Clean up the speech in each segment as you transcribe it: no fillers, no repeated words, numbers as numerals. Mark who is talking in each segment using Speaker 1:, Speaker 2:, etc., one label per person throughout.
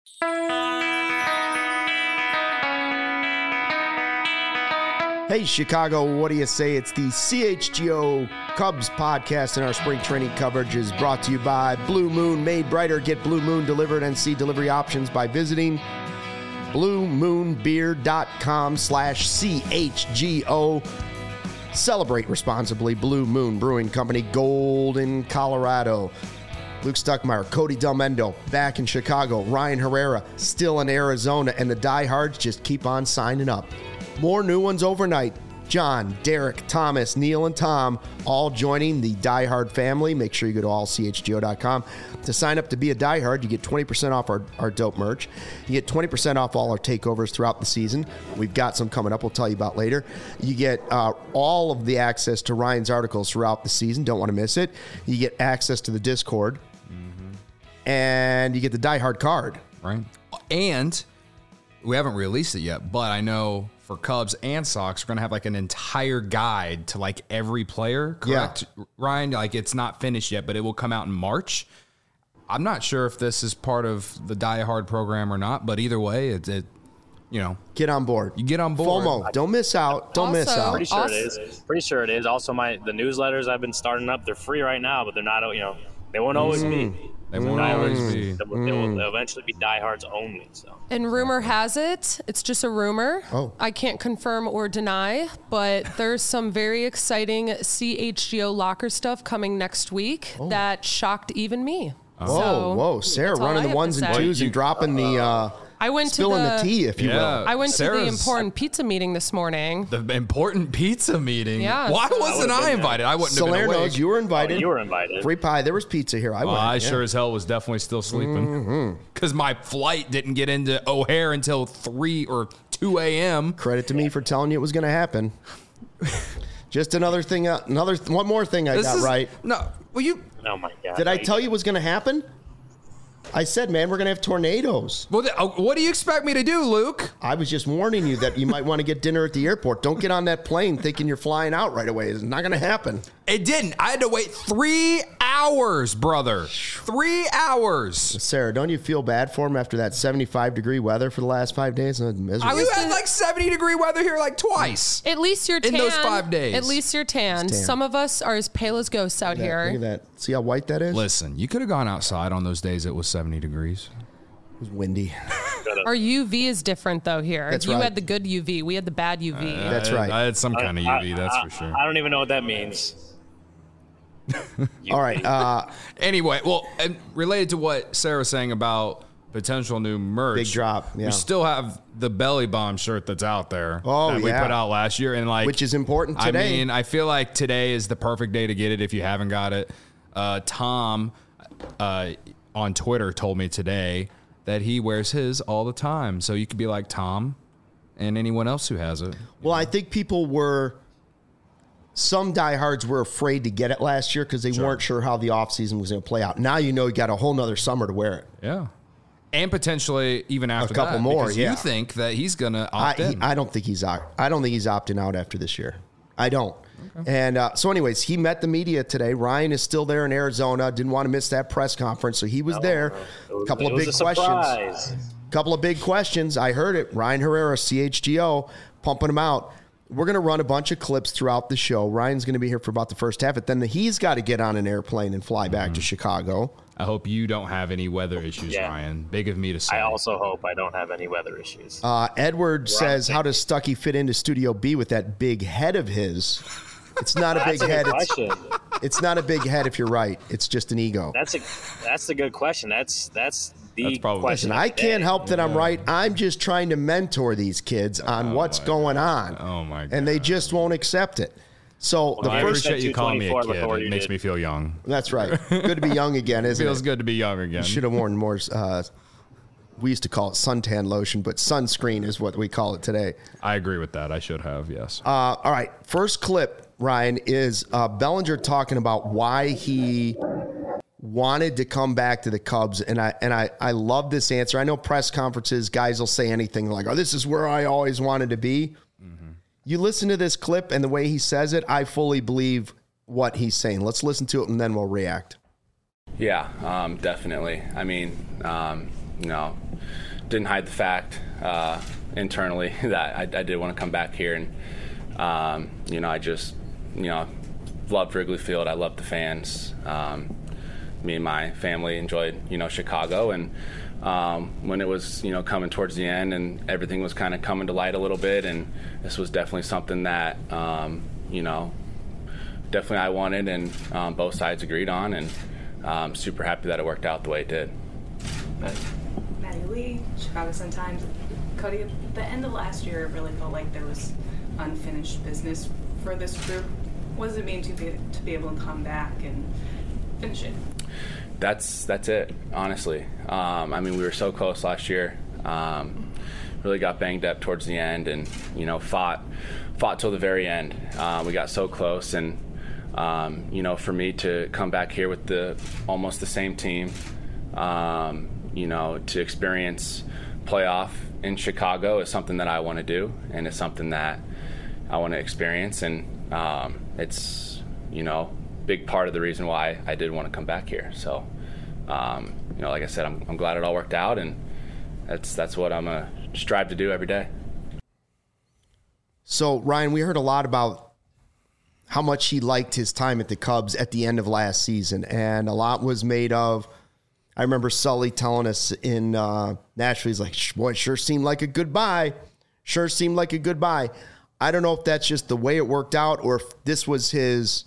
Speaker 1: Hey, Chicago, what do you say? It's the CHGO Cubs podcast, and our spring training coverage is brought to you by Blue Moon Made Brighter. Get Blue Moon delivered and see delivery options by visiting bluemoonbeer.com/CHGO. Celebrate responsibly. Blue Moon Brewing Company, Golden, Colorado. Luke Stuckmeyer, Cody Delmendo, back in Chicago. Ryan Herrera, still in Arizona, and the diehards just keep on signing up. More new ones overnight. John, Derek, Thomas, Neil, and Tom all joining the Die Hard family. Make sure you go to allchgo.com to sign up to be a Die Hard. You get 20% off our dope merch. You get 20% off all our takeovers throughout the season. We've got some coming up we'll tell you about later. You get all of the access to Ryan's articles throughout the season. Don't want to miss it. You get access to the Discord. And you get the Die Hard card.
Speaker 2: Right. And we haven't released it yet, but I know for Cubs and Sox, we're going to have like an entire guide to like every player, correct, yeah. Ryan? Like it's not finished yet, but it will come out in March. I'm not sure if this is part of the Die Hard program or not, but either way, it
Speaker 1: get on board.
Speaker 2: You get on board.
Speaker 1: FOMO. Don't miss out. Don't miss out.
Speaker 3: Pretty sure it is. Pretty sure it is. Also, the newsletters I've been starting up, they're free right now, but they're not, they won't always be.
Speaker 2: They won't always be.
Speaker 3: They'll eventually be diehards only. So.
Speaker 4: And rumor has it, it's just a rumor.
Speaker 1: Oh.
Speaker 4: I can't confirm or deny, but there's some very exciting CHGO locker stuff coming next week that shocked even me.
Speaker 1: Whoa, Sarah running the ones and twos and dropping the...
Speaker 4: I went
Speaker 1: spilling
Speaker 4: to
Speaker 1: the tea, if you will.
Speaker 4: I went to the important pizza meeting this morning.
Speaker 2: The important pizza meeting?
Speaker 4: Yeah.
Speaker 2: Why wasn't I invited? I wouldn't have been awake.
Speaker 1: Knows you were invited.
Speaker 3: Oh, you were invited.
Speaker 1: Free pie. There was pizza here.
Speaker 2: I sure as hell was definitely still sleeping. Because my flight didn't get into O'Hare until 3 or 2 a.m.
Speaker 1: Credit to me for telling you it was going to happen. Just another thing. One more thing I got right.
Speaker 2: No. Well, you...
Speaker 3: Oh, my God.
Speaker 1: Did I tell you it was going to happen? I said, man, we're going to have tornadoes.
Speaker 2: Well, what do you expect me to do, Luke?
Speaker 1: I was just warning you that you might want to get dinner at the airport. Don't get on that plane thinking you're flying out right away. It's not going to happen.
Speaker 2: It didn't. I had to wait 3 hours, brother. 3 hours.
Speaker 1: Sarah, don't you feel bad for him after that 75-degree weather for the last 5 days?
Speaker 2: You had like 70-degree weather here like twice.
Speaker 4: At least you're tan.
Speaker 2: In those 5 days.
Speaker 4: At least you're tan. Some of us are as pale as ghosts out here.
Speaker 1: Look at that. See how white that is?
Speaker 2: Listen, you could have gone outside on those days it was 70 degrees.
Speaker 1: It was windy.
Speaker 4: Our UV is different, though, here.
Speaker 1: That's
Speaker 4: you
Speaker 1: right.
Speaker 4: had the good UV. We had the bad UV.
Speaker 1: That's right.
Speaker 2: I had some kind of UV, that's for sure.
Speaker 3: I don't even know what that means.
Speaker 1: All right.
Speaker 2: Anyway, well, and related to what Sarah was saying about potential new merch.
Speaker 1: Big drop, yeah.
Speaker 2: We still have the Belly Bomb shirt that's out there that we put out last year. And
Speaker 1: which is important today.
Speaker 2: I mean, I feel like today is the perfect day to get it if you haven't got it. Tom on Twitter told me today that he wears his all the time. So you could be like Tom and anyone else who has it.
Speaker 1: Well, I think some diehards were afraid to get it last year because they weren't sure how the offseason was going to play out. Now you got a whole nother summer to wear it.
Speaker 2: Yeah. And potentially even after
Speaker 1: a couple
Speaker 2: that,
Speaker 1: more.
Speaker 2: Because you think that he's going to opt in.
Speaker 1: I don't think he's opting out after this year. I don't. Okay. And so anyways, he met the media today. Ryan is still there in Arizona. Didn't want to miss that press conference, so he was there. A couple of big questions. I heard it. Ryan Herrera, CHGO, pumping him out. We're going to run a bunch of clips throughout the show. Ryan's going to be here for about the first half, but then he's got to get on an airplane and fly back to Chicago.
Speaker 2: I hope you don't have any weather issues, Ryan. Big of me to say.
Speaker 3: I also hope I don't have any weather issues.
Speaker 1: Edward says, how does Stuckey fit into Studio B with that big head of his? It's not a big head. It's not a big head if you're right. It's just an ego.
Speaker 3: That's a good question. That's the question.
Speaker 1: Listen, I can't help that I'm right. I'm just trying to mentor these kids on what's going on.
Speaker 2: Oh, my God.
Speaker 1: And they just won't accept it. So
Speaker 2: I appreciate you calling me a kid. It makes me feel young.
Speaker 1: That's right. Good to be young again, isn't it?
Speaker 2: Feels good to be young again.
Speaker 1: You should have worn more, we used to call it suntan lotion, but sunscreen is what we call it today.
Speaker 2: I agree with that. I should have, yes.
Speaker 1: All right. First clip, Ryan, is Bellinger talking about why he wanted to come back to the Cubs, and I love this answer. I know press conferences, guys will say anything like, oh, this is where I always wanted to be. Mm-hmm. You listen to this clip, and the way he says it, I fully believe what he's saying. Let's listen to it, and then we'll react.
Speaker 5: Yeah, definitely. I mean, didn't hide the fact internally that I did want to come back here. And, I just, loved Wrigley Field. I loved the fans. Me and my family enjoyed, Chicago. And when it was, coming towards the end and everything was kind of coming to light a little bit, and this was definitely something that, definitely I wanted and both sides agreed on, and I'm super happy that it worked out the way it did.
Speaker 6: Maddie Lee, Chicago Sun-Times. Cody, at the end of last year, it really felt like there was unfinished business for this group. What does it mean to be able to come back and finish it?
Speaker 5: That's it, honestly. We were so close last year. Really got banged up towards the end, and fought till the very end. We got so close, and for me to come back here with almost the same team, to experience playoff in Chicago is something that I want to do, and it's something that I want to experience, and it's big part of the reason why I did want to come back here. So like I said, I'm glad it all worked out, and that's what I'm gonna strive to do every day.
Speaker 1: So Ryan, we heard a lot about how much he liked his time at the Cubs at the end of last season, and a lot was made of. I remember Sully telling us in Nashville, he's like, boy, sure seemed like a goodbye. Sure seemed like a goodbye. I don't know if that's just the way it worked out or if this was his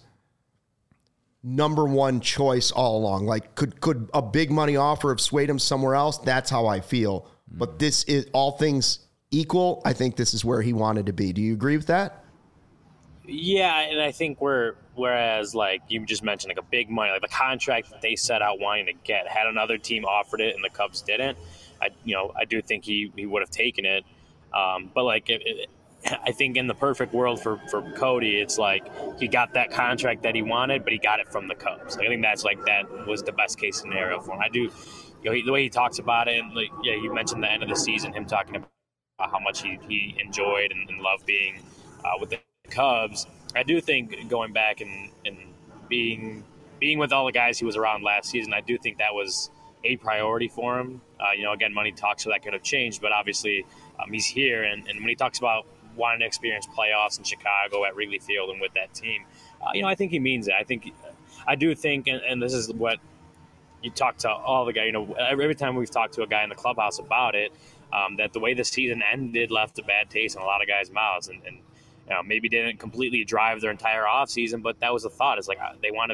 Speaker 1: number one choice all along. Like, could a big money offer have swayed him somewhere else? That's how I feel. But this is, all things equal, I think this is where he wanted to be. Do you agree with that?
Speaker 3: Yeah, and I think whereas like you just mentioned, like a big money, like the contract that they set out wanting to get, had another team offered it and the Cubs didn't, I do think he would have taken it. But like I think in the perfect world for Cody, it's like he got that contract that he wanted, but he got it from the Cubs. Like, I think that was the best case scenario for him. I do, the way he talks about it, and like, yeah, you mentioned the end of the season, him talking about how much he enjoyed and loved being with the Cubs. I do think going back and being with all the guys he was around last season, I do think that was a priority for him. Again, money talks, so that could have changed, but obviously he's here, and when he talks about wanting to experience playoffs in Chicago at Wrigley Field and with that team, I think he means it. I do think, and this is what you talk to all the guys, every time we've talked to a guy in the clubhouse about it, that the way the season ended left a bad taste in a lot of guys' mouths, and maybe didn't completely drive their entire offseason, but that was the thought. It's like they want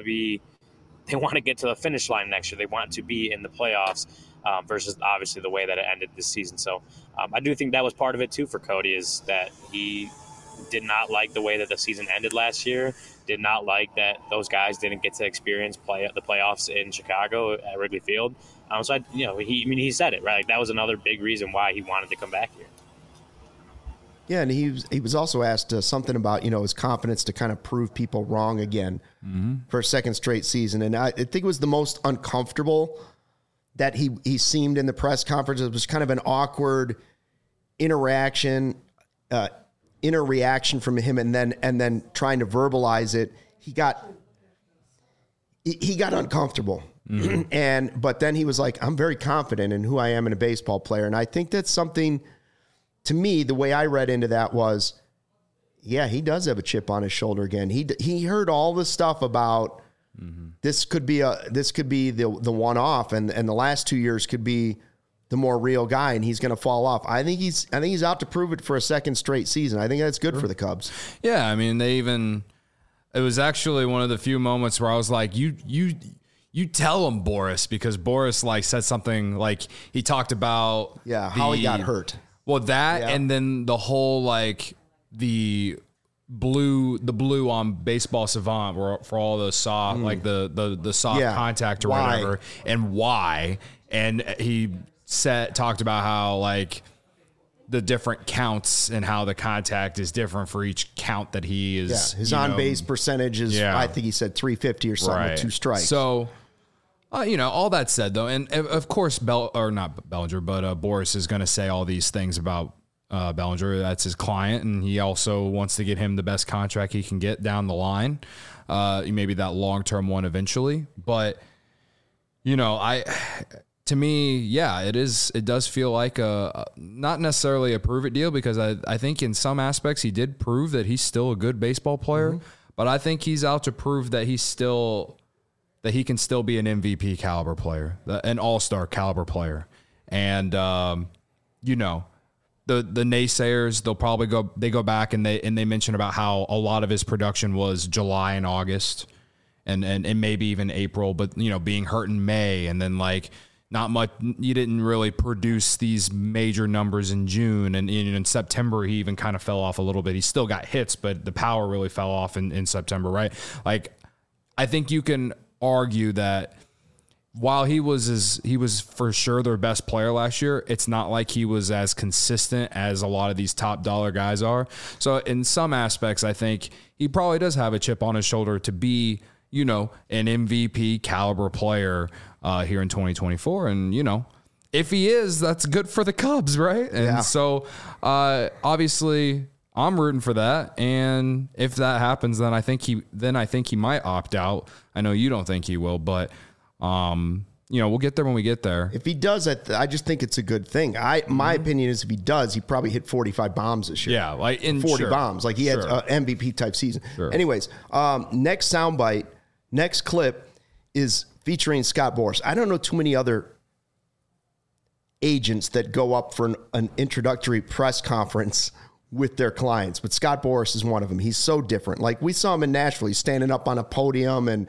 Speaker 3: to get to the finish line next year. They want to be in the playoffs versus obviously the way that it ended this season. So I do think that was part of it too for Cody, is that he did not like the way that the season ended last year, did not like that those guys didn't get to experience the playoffs in Chicago at Wrigley Field. He said it, right? Like, that was another big reason why he wanted to come back here.
Speaker 1: Yeah, and he was also asked something about, his confidence to kind of prove people wrong again for a second straight season. And I think it was the most uncomfortable that he seemed in the press conference. It was kind of an awkward inner reaction from him, and then trying to verbalize it. He got uncomfortable. But then he was like, I'm very confident in who I am in a baseball player. And I think that's something, to me, the way I read into that was, yeah, he does have a chip on his shoulder again. He heard all the stuff about this could be the one-off, and the last 2 years could be the more real guy, and he's going to fall off. I think he's out to prove it for a second straight season. I think that's good for the Cubs.
Speaker 2: Yeah, it was actually one of the few moments where I was like, you tell him, Boris, because Boris said something like, he talked about
Speaker 1: how he got hurt.
Speaker 2: Well, and then the whole the blue on Baseball Savant for all the soft the soft contact or whatever, and why. And he talked about how the different counts and how the contact is different for each count that he is. Yeah,
Speaker 1: his on base percentage is I think he said 350 or something with 2 strikes.
Speaker 2: So. All that said, though, and of course, not Bellinger, but Boris is going to say all these things about Bellinger. That's his client, and he also wants to get him the best contract he can get down the line, maybe that long-term one eventually. But, to to me, yeah, it is. It does feel like a not necessarily a prove it deal, because I think in some aspects he did prove that he's still a good baseball player, but I think he's out to prove that he can still be an MVP caliber player, an all-star caliber player. And, the naysayers, they'll probably go back and they mention about how a lot of his production was July and August and maybe even April, but, being hurt in May, and then like not much, you didn't really produce these major numbers in June. And in September, he even kind of fell off a little bit. He still got hits, but the power really fell off in September, right? Like, I think you can argue that while he was for sure their best player last year, it's not like he was as consistent as a lot of these top dollar guys are. So in some aspects, I think he probably does have a chip on his shoulder to be, an MVP caliber player here in 2024. And, if he is, that's good for the Cubs, right? And so obviously I'm rooting for that. And if that happens, then I think he might opt out. I know you don't think he will, but we'll get there when we get there.
Speaker 1: If he does, I just think it's a good thing. My opinion is if he does, he probably hit 45 bombs this year.
Speaker 2: Yeah, like
Speaker 1: 40 bombs. Like he had an MVP type season. Sure. Anyways, next soundbite, next clip is featuring Scott Boras. I don't know too many other agents that go up for an introductory press conference with their clients, but Scott Boras is one of them. He's so different. Like we saw him in Nashville. He's standing up on a podium and,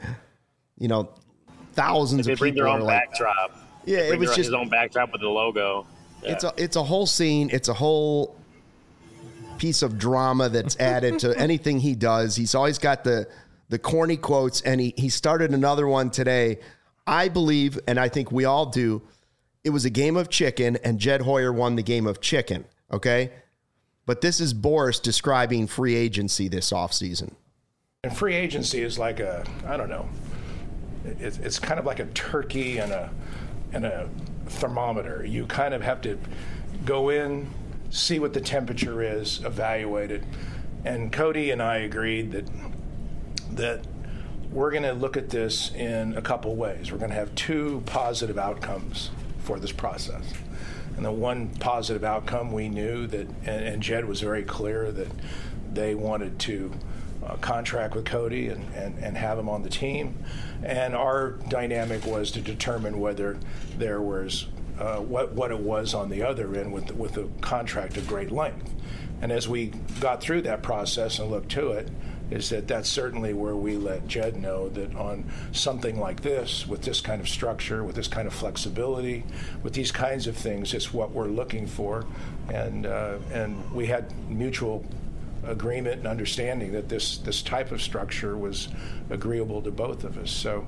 Speaker 1: thousands of people
Speaker 3: bring their own backdrop.
Speaker 1: Yeah, it was just
Speaker 3: his own backdrop with the logo. Yeah.
Speaker 1: It's a whole scene. It's a whole piece of drama that's added to anything he does. He's always got the corny quotes, and he started another one today. I believe, and I think we all do, it was a game of chicken, and Jed Hoyer won the game of chicken, okay? But this is Boras describing free agency this offseason.
Speaker 7: And free agency is like I don't know, it's kind of like a turkey and a thermometer. You kind of have to go in, see what the temperature is, evaluate it. And Cody and I agreed that we're going to look at this in a couple ways. We're going to have two positive outcomes for this process. And the one positive outcome, we knew that, and Jed was very clear that they wanted to contract with Cody and have him on the team. And our dynamic was to determine whether there was what it was on the other end with a contract of great length. And as we got through that process and looked to it, is that's certainly where we let Jed know that on something like this, with this kind of structure, with this kind of flexibility, with these kinds of things, it's what we're looking for. And we had mutual agreement and understanding that this type of structure was agreeable to both of us. So,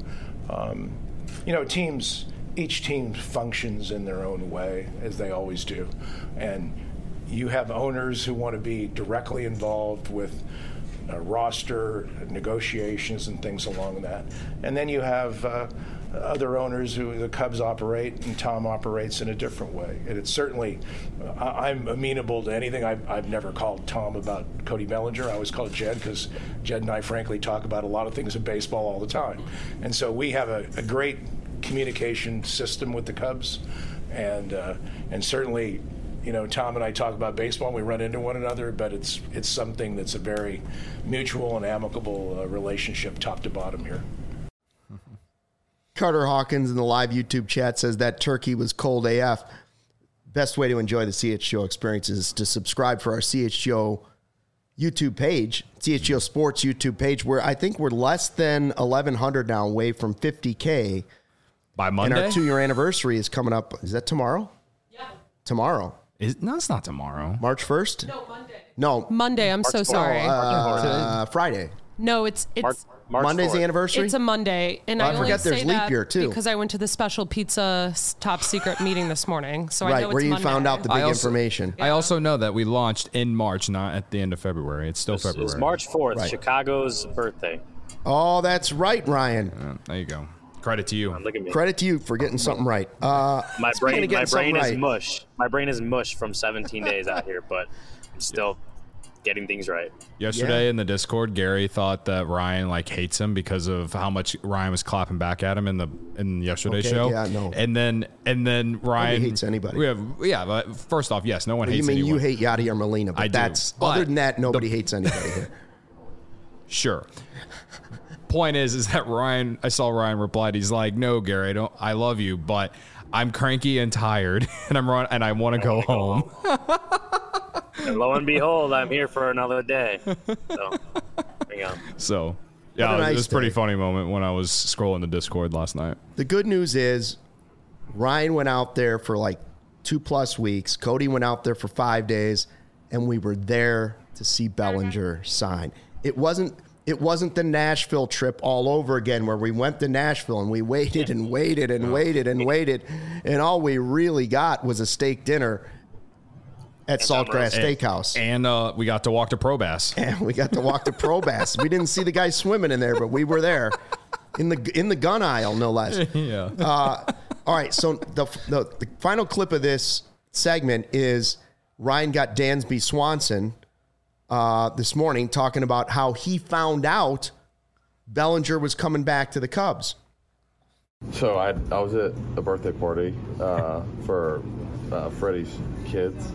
Speaker 7: each team functions in their own way, as they always do. And you have owners who want to be directly involved with roster negotiations and things along that. And then you have other owners who the Cubs operate, and Tom operates in a different way. And it's certainly, I'm amenable to anything. I've never called Tom about Cody Bellinger. I always call it Jed, because Jed and I frankly talk about a lot of things in baseball all the time. And so we have a great communication system with the Cubs. And certainly, Tom and I talk about baseball and we run into one another, but it's something that's a very mutual and amicable relationship top to bottom here.
Speaker 1: Carter Hawkins in the live YouTube chat says that turkey was cold AF. Best way to enjoy the CHGO experience is to subscribe for our CHGO YouTube page, CHGO Sports YouTube page, where I think we're less than 1,100 now, away from 50K.
Speaker 2: By Monday?
Speaker 1: And our 2-year anniversary is coming up. Is that tomorrow?
Speaker 4: Yeah.
Speaker 1: Tomorrow.
Speaker 2: No, it's not tomorrow.
Speaker 1: March 1st?
Speaker 4: No, Monday.
Speaker 1: No.
Speaker 4: Monday. I'm so sorry.
Speaker 1: Friday.
Speaker 4: No, it's
Speaker 3: March
Speaker 1: Monday's
Speaker 3: 4th.
Speaker 1: the anniversary?
Speaker 4: It's a Monday, and
Speaker 1: Well,
Speaker 4: I
Speaker 1: I
Speaker 4: only
Speaker 1: forget
Speaker 4: say
Speaker 1: there's leap
Speaker 4: that
Speaker 1: year, too.
Speaker 4: because I went to the special pizza top secret meeting this morning, so I
Speaker 1: Right,
Speaker 4: know it's
Speaker 1: where you
Speaker 4: Monday.
Speaker 1: found out the big information.
Speaker 2: I also know that we launched in March, not at the end of February. It's still February.
Speaker 3: It's March 4th,
Speaker 1: Right.
Speaker 3: Chicago's birthday.
Speaker 1: Oh, that's right, Ryan.
Speaker 2: There you go. Credit to you.
Speaker 3: Look at me.
Speaker 1: Credit to you for getting something right.
Speaker 3: My
Speaker 1: speaking
Speaker 3: brain
Speaker 1: of getting
Speaker 3: is
Speaker 1: something right,
Speaker 3: mush. My brain is mush from 17 days out here, but I'm still getting things right.
Speaker 2: Yesterday in the Discord, Gary thought that Ryan hates him because of how much Ryan was clapping back at him in yesterday's show.
Speaker 1: Yeah, no.
Speaker 2: And then Ryan
Speaker 1: Nobody hates anybody.
Speaker 2: But first off, yes, no one hates anyone.
Speaker 1: You hate Yadier Molina, but other than that, nobody hates anybody here.
Speaker 2: Sure. Point is that Ryan, I saw Ryan replied, he's like, "No, Gary, I love you, but I'm cranky and tired and I want to go home."
Speaker 3: And lo and behold, I'm here for another day. So, there you go.
Speaker 2: So, yeah, it was a pretty funny moment when I was scrolling the Discord last night.
Speaker 1: The good news is Ryan went out there for 2+ weeks. Cody went out there for 5 days, and we were there to see Bellinger sign. It wasn't the Nashville trip all over again where we went to Nashville and we waited and waited and waited and waited, and all we really got was a steak dinner at Saltgrass Steakhouse.
Speaker 2: And we got to walk to Probass.
Speaker 1: We didn't see the guy swimming in there, but we were there in the gun aisle, no less.
Speaker 2: Yeah.
Speaker 1: All right, so the final clip of this segment is Ryan got Dansby Swanson this morning talking about how he found out Bellinger was coming back to the Cubs.
Speaker 8: So I was at a birthday party for Freddie's kids.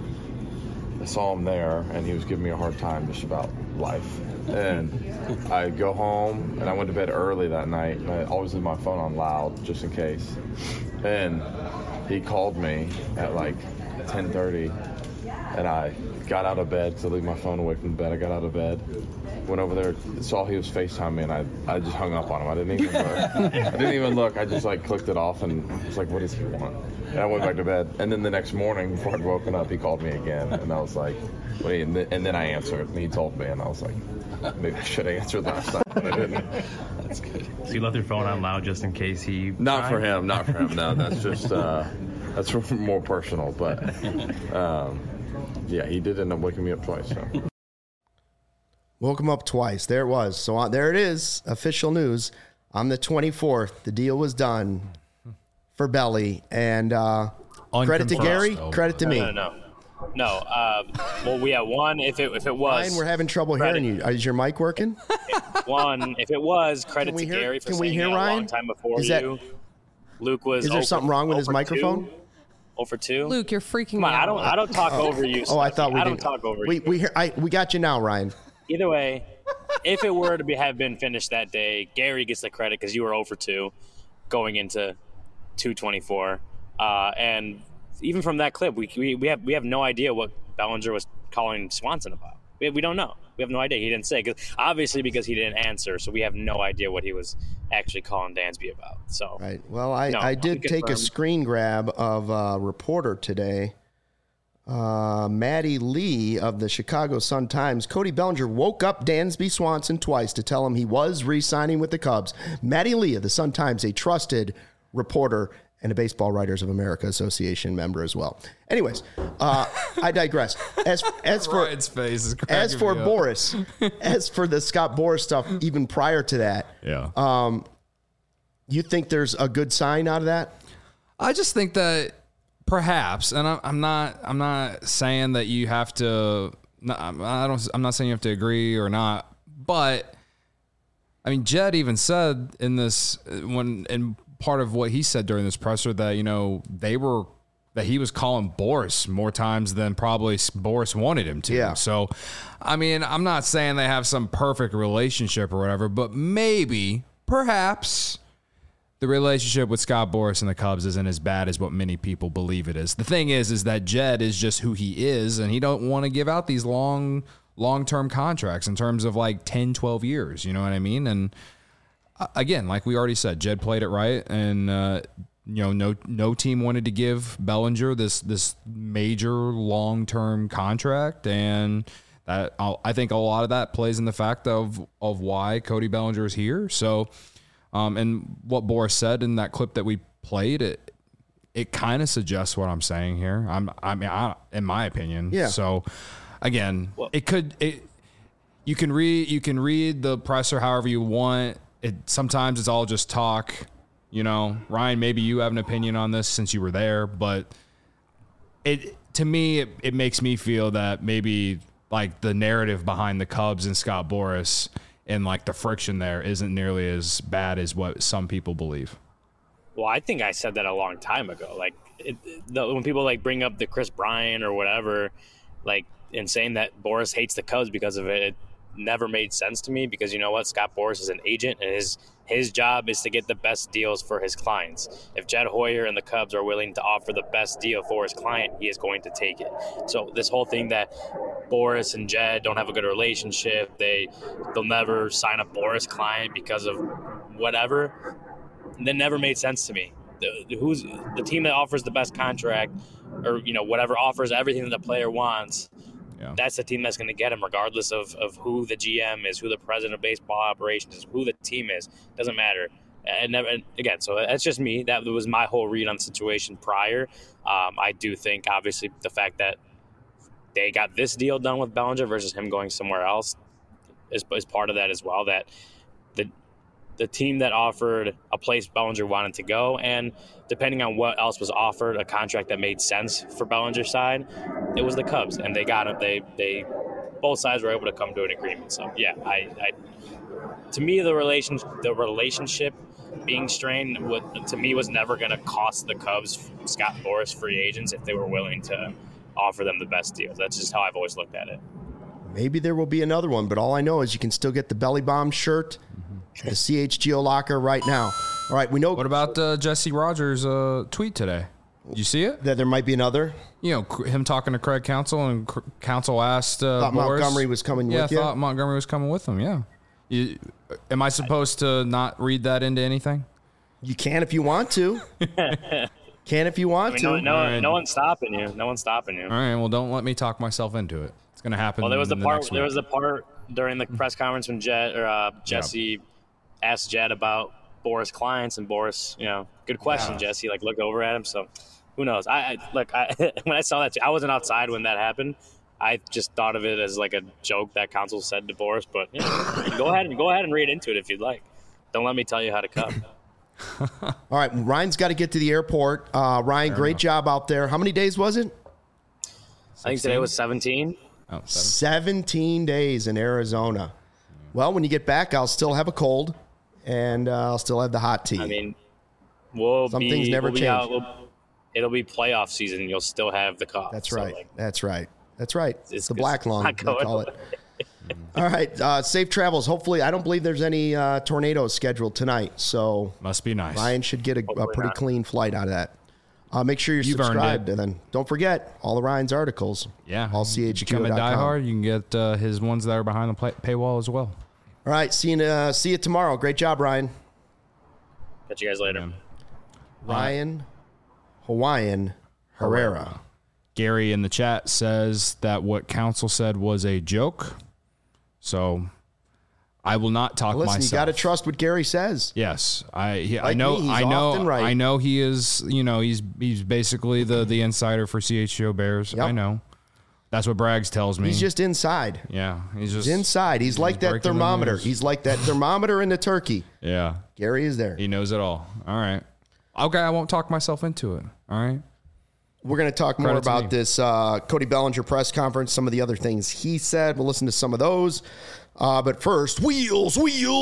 Speaker 8: I saw him there, and he was giving me a hard time just about life. And I go home, and I went to bed early that night, and I always leave my phone on loud just in case. And he called me at 10:30, and I got out of bed, because I leave my phone away from the bed. I got out of bed, went over there, saw he was FaceTiming me, and I just hung up on him. I didn't even look. I just clicked it off and was like, what does he want? And I went back to bed. And then the next morning, before I'd woken up, he called me again, and I was like, wait, and then I answered, and he told me, and I was like, maybe I should have answered last time, but I didn't.
Speaker 9: That's good. So you left your phone on loud just in case he...
Speaker 8: Not for him. No, that's just, that's more personal, but, yeah, he did end up waking me up twice, so...
Speaker 1: Woke him up twice. There it was. So there it is. Official news. On the 24th, the deal was done for Belly. And credit to Gary, credit to me.
Speaker 3: No. Well, we have one. If it was,
Speaker 1: Ryan, we're having trouble hearing you. Is your mic working?
Speaker 3: One. If it was, credit to Gary for saying it a long time before you. Luke was.
Speaker 1: Is there something wrong with his microphone?
Speaker 3: 0 for 2.
Speaker 4: Luke, you're freaking
Speaker 3: me
Speaker 4: out.
Speaker 3: I don't talk over you.
Speaker 1: Oh, I thought we did.
Speaker 3: I don't talk over you.
Speaker 1: We got you now, Ryan.
Speaker 3: Either way, if it were to have been finished that day, Gary gets the credit because you were 0 for 2 going into 224. And even from that clip, we have no idea what Bellinger was calling Swanson about. We don't know. We have no idea. He didn't say, because he didn't answer, so we have no idea what he was actually calling Dansby about. So
Speaker 1: right. Well, I did take a screen grab of a reporter today. Maddie Lee of the Chicago Sun-Times. Cody Bellinger woke up Dansby Swanson twice to tell him he was re-signing with the Cubs. Maddie Lee of the Sun-Times, a trusted reporter and a Baseball Writers of America Association member as well. Anyways, I digress. As for Boris, as for the Scott Boras stuff, even prior to that, you think there's a good sign out of that?
Speaker 2: I just think that perhaps, and I'm not saying that you have to. I'm not saying you have to agree or not, but I mean, Jed even said in this in part of what he said during this presser that that he was calling Boras more times than probably Boras wanted him to.
Speaker 1: Yeah.
Speaker 2: So, I mean, I'm not saying they have some perfect relationship or whatever, but perhaps. The relationship with Scott Boras and the Cubs isn't as bad as what many people believe it is. The thing is that Jed is just who he is, and he don't want to give out these long-term contracts in terms of 10, 12 years. You know what I mean? And again, like we already said, Jed played it right, and no team wanted to give Bellinger this major long-term contract, and that I think a lot of that plays in the fact of why Cody Bellinger is here. So. And what Boras said in that clip that we played, it kind of suggests what I'm saying here. In my opinion.
Speaker 1: Yeah.
Speaker 2: So, again, you can read the presser however you want. Sometimes it's all just talk. Ryan, maybe you have an opinion on this since you were there, but to me, it makes me feel that maybe like the narrative behind the Cubs and Scott Boras and like the friction there isn't nearly as bad as what some people believe.
Speaker 3: Well, I think I said that a long time ago. Like when people like bring up the Chris Bryant or whatever, like and saying that Boras hates the Cubs because of it, it never made sense to me because you know what? Scott Boras is an agent and his job is to get the best deals for his clients. If Jed Hoyer and the Cubs are willing to offer the best deal for his client, he is going to take it. So this whole thing that Boras and Jed don't have a good relationship, they'll never sign a Boras client because of whatever, that never made sense to me. Who's the team that offers the best contract or, you know, whatever offers everything that the player wants, that's the team that's going to get him regardless of who the GM is, who the president of baseball operations is, who the team is. Doesn't matter. And again, so that's just me. That was my whole read on the situation prior. I do think, obviously, the fact that they got this deal done with Bellinger versus him going somewhere else is part of that as well, that the team that offered a place Bellinger wanted to go, and depending on what else was offered, a contract that made sense for Bellinger's side, it was the Cubs, and they got it. They both sides were able to come to an agreement. So yeah, to me the relationship being strained to me was never going to cost the Cubs Scott Boras free agents if they were willing to offer them the best deals. That's just how I've always looked at it.
Speaker 1: Maybe there will be another one, but all I know is you can still get the Belly Bomb shirt. The CHGO locker right now. All right, we know.
Speaker 2: What about Jesse Rogers' tweet today? Did you see it?
Speaker 1: That there might be another?
Speaker 2: You know, him talking to Craig Counsell, and Counsell asked
Speaker 1: thought
Speaker 2: Boras,
Speaker 1: Montgomery was coming with you?
Speaker 2: Yeah, I thought Montgomery was coming with him, yeah. Am I supposed to not read that into anything?
Speaker 1: You can if you want to. Can if you want to.
Speaker 3: No one's stopping you. No one's stopping you.
Speaker 2: All right, well, don't let me talk myself into it. It's going to happen.
Speaker 3: Well, there was the part during the press conference when Jesse asked Jed about Boras' clients, and Boras, good question, Jesse. Like, look over at him. So, who knows? When I saw that, I wasn't outside when that happened. I just thought of it as like a joke that Counsell said to Boras. But go ahead and read into it if you'd like. Don't let me tell you how to come.
Speaker 1: All right, Ryan's got to get to the airport. Ryan, great job out there. How many days was it?
Speaker 3: 16? I think today was 17.
Speaker 1: 17 days in Arizona. Well, when you get back, I'll still have a cold, and I'll still have the hot tea.
Speaker 3: I mean,
Speaker 1: some things never change.
Speaker 3: It'll be playoff season. You'll still have the cough.
Speaker 1: That's right. That's right. It's the black lung, they call it. All right. Safe travels. Hopefully, I don't believe there's any tornadoes scheduled tonight. So
Speaker 2: must be nice.
Speaker 1: Ryan should get a pretty clean flight out of that. Make sure you're subscribed, and then don't forget all of Ryan's articles.
Speaker 2: Yeah,
Speaker 1: all CHGO.com.
Speaker 2: Become a diehard. You can get his ones that are behind the paywall as well.
Speaker 1: All right, see you tomorrow. Great job, Ryan.
Speaker 3: Catch you guys later.
Speaker 2: Yeah.
Speaker 1: Ryan Hawaiian Herrera.
Speaker 2: Gary in the chat says that what Counsell said was a joke. So I will not talk myself.
Speaker 1: Listen, you got to trust what Gary says.
Speaker 2: Yes, I know he is. He's basically the insider for CHGO Bears. Yep. I know. That's what Braggs tells me.
Speaker 1: He's just inside.
Speaker 2: Yeah, he's
Speaker 1: inside. He's like that thermometer. He's like that thermometer in the turkey.
Speaker 2: Yeah,
Speaker 1: Gary is there.
Speaker 2: He knows it all. All right. Okay, I won't talk myself into it. All right.
Speaker 1: We're going to talk more about this Cody Bellinger press conference, some of the other things he said. We'll listen to some of those. But first, Wheels,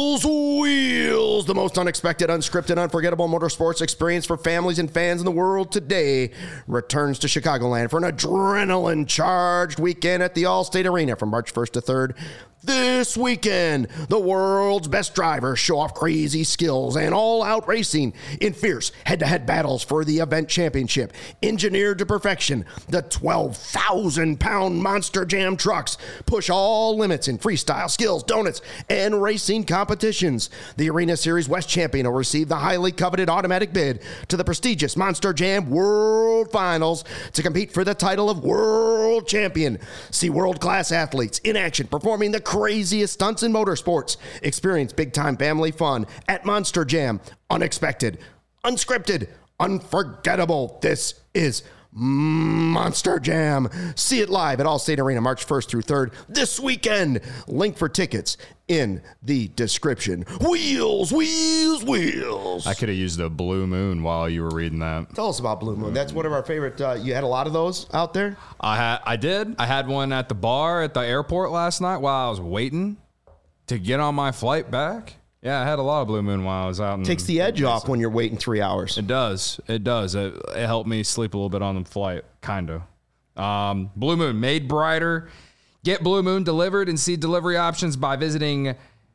Speaker 1: the most unexpected, unscripted, unforgettable motorsports experience for families and fans in the world today returns to Chicagoland for an adrenaline-charged weekend at the Allstate Arena from March 1st to 3rd. This weekend, the world's best drivers show off crazy skills and all-out racing in fierce head-to-head battles for the event championship. Engineered to perfection, the 12,000-pound Monster Jam trucks push all limits in freestyle, skills, donuts, and racing competitions. The Arena Series West champion will receive the highly coveted automatic bid to the prestigious Monster Jam World Finals to compete for the title of World Champion. See world-class athletes in action performing the craziest stunts in motorsports. Experience big-time family fun at Monster Jam. Unexpected, unscripted, unforgettable. This is Monster Jam. See it live at Allstate Arena March 1st through 3rd this weekend. Link for tickets in the description. Wheels.
Speaker 2: I could have used a Blue Moon while you were reading that.
Speaker 1: Tell us about Blue Moon. That's one of our favorite. You had a lot of those out there?
Speaker 2: I did. I had one at the bar at the airport last night while I was waiting to get on my flight back. Yeah, I had a lot of Blue Moon while I was out.
Speaker 1: Takes the edge off when you're waiting 3 hours.
Speaker 2: It does. It helped me sleep a little bit on the flight, kind of. Blue Moon, made brighter. Get Blue Moon delivered and see delivery options by visiting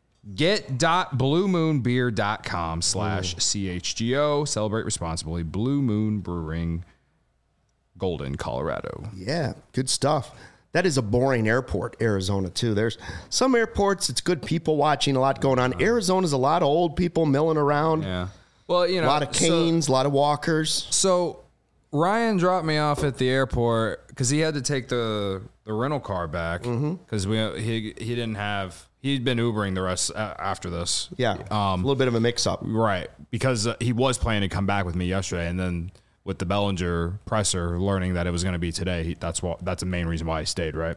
Speaker 2: get.bluemoonbeer.com/CHGO. Celebrate responsibly. Blue Moon Brewing, Golden, Colorado.
Speaker 1: Yeah, good stuff. That is a boring airport, Arizona, too. There's some airports, it's good people watching, a lot going on. Arizona's a lot of old people milling around.
Speaker 2: Yeah. Well, you know,
Speaker 1: a lot of canes, a lot of walkers.
Speaker 2: So Ryan dropped me off at the airport because he had to take the rental car back because he didn't have. He'd been Ubering the rest after this.
Speaker 1: Yeah, a little bit of a mix-up.
Speaker 2: Right, because he was planning to come back with me yesterday, and then with the Bellinger presser, learning that it was going to be today, that's the main reason why I stayed, right?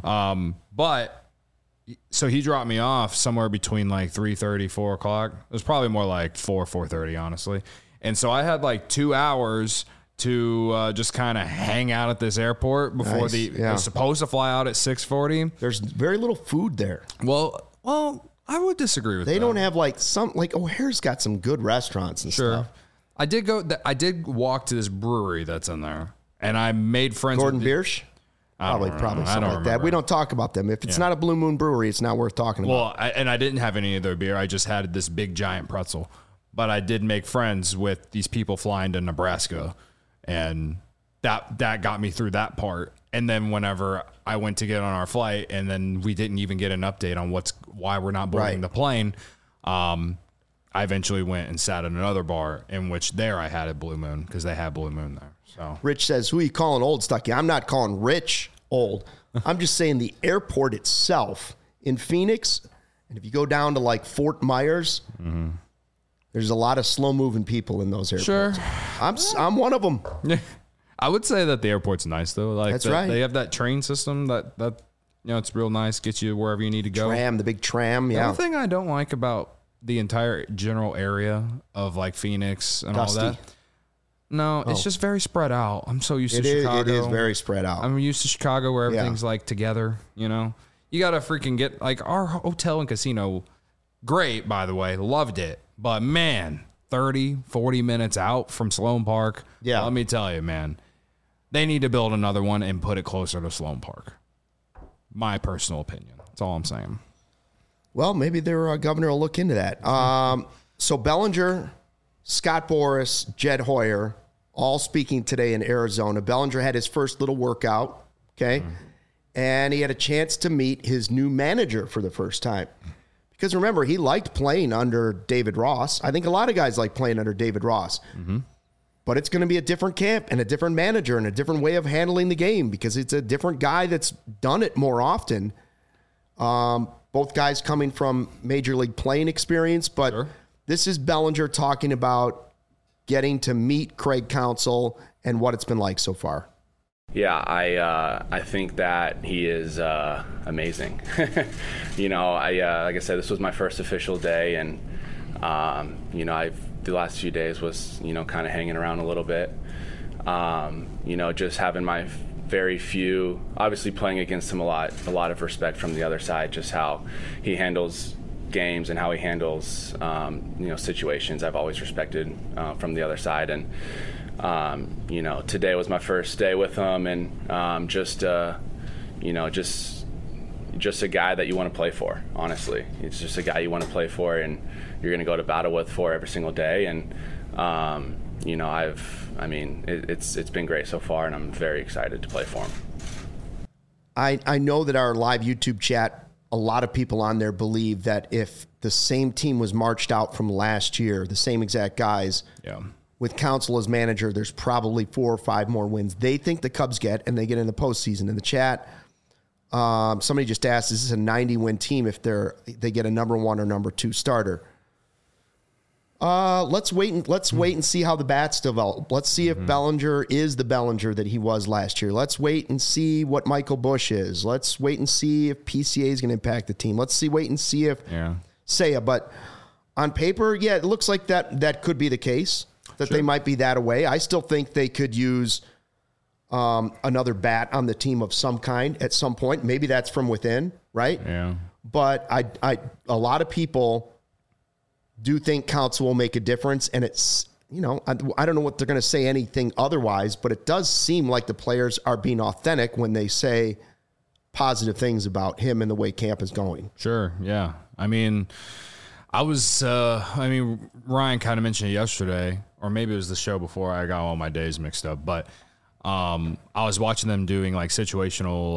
Speaker 2: But so he dropped me off somewhere between like 3:30, 4 o'clock. It was probably more like 4:30, honestly. And so I had like 2 hours to just kind of hang out at this airport before they're supposed to fly out at 6:40.
Speaker 1: There's very little food there.
Speaker 2: Well, I would disagree with that.
Speaker 1: They don't have like O'Hare's got some good restaurants and stuff.
Speaker 2: I did walk to this brewery that's in there, and I made friends.
Speaker 1: Gordon Biersch? Probably something like that. We don't talk about them. If it's not a Blue Moon Brewery, it's not worth talking about.
Speaker 2: Well, I didn't have any of their beer. I just had this big giant pretzel. But I did make friends with these people flying to Nebraska, and that got me through that part. And then whenever I went to get on our flight, and then we didn't even get an update on why we're not boarding the plane. I eventually went and sat at another bar in which there I had a Blue Moon because they had Blue Moon there. So
Speaker 1: Rich says, who are you calling old, Stucky? I'm not calling Rich old. I'm just saying the airport itself in Phoenix, and if you go down to like Fort Myers, there's a lot of slow-moving people in those airports.
Speaker 2: Sure.
Speaker 1: I'm one of them.
Speaker 2: I would say that the airport's nice, though. Like
Speaker 1: That's right.
Speaker 2: They have that train system that it's real nice, gets you wherever you need to go.
Speaker 1: The big tram,
Speaker 2: The only thing I don't like about the entire general area of like Phoenix and
Speaker 1: Dusty.
Speaker 2: all that. No, it's just very spread out. I'm so used to Chicago.
Speaker 1: It is very spread out.
Speaker 2: I'm used to Chicago where everything's like together, you know? You got to freaking get like our hotel and casino. Great, by the way. Loved it. But man, 30, 40 minutes out from Sloan Park.
Speaker 1: Yeah.
Speaker 2: Let me tell you, man, they need to build another one and put it closer to Sloan Park. My personal opinion. That's all I'm saying.
Speaker 1: Well, maybe their governor will look into that. So Bellinger, Scott Boras, Jed Hoyer, all speaking today in Arizona. Bellinger had his first little workout, okay? And he had a chance to meet his new manager for the first time. Because remember, he liked playing under David Ross. I think a lot of guys like playing under David Ross. But it's going to be a different camp and a different manager and a different way of handling the game because it's a different guy that's done it more often. Both guys coming from Major League playing experience, but this is Bellinger talking about getting to meet Craig Counsell and what it's been like so far.
Speaker 5: Yeah, I think that he is amazing. Like I said, this was my first official day, and the last few days was kind of hanging around a little bit. Just having my very few, obviously playing against him a lot of respect from the other side, just how he handles games and how he handles situations. I've always respected from the other side, and today was my first day with him, and just a guy that you want to play for. Honestly, it's just a guy you want to play for, and you're going to go to battle with for every single day. And it's been great so far, and I'm very excited to play for him.
Speaker 1: I know that our live YouTube chat, a lot of people on there believe that if the same team was marched out from last year, the same exact guys, with Counsell as manager, there's probably 4 or 5 more wins they think the Cubs get, and they get in the postseason. In the chat, somebody just asked, is this a 90-win team if they get a number 1 or number 2 starter? Let's wait and see how the bats develop. Let's see if Bellinger is the Bellinger that he was last year. Let's wait and see what Michael Busch is. Let's wait and see if PCA is going to impact the team. Wait and see if Seiya. But on paper, it looks like that could be the case, that they might be that away. I still think they could use another bat on the team of some kind at some point. Maybe that's from within, right?
Speaker 2: Yeah.
Speaker 1: But a lot of people do think Counsell will make a difference, and it's, I don't know what they're going to say anything otherwise, but it does seem like the players are being authentic when they say positive things about him and the way camp is going.
Speaker 2: Sure, yeah. I mean, Ryan kind of mentioned it yesterday, or maybe it was the show before. I got all my days mixed up, but I was watching them doing like situational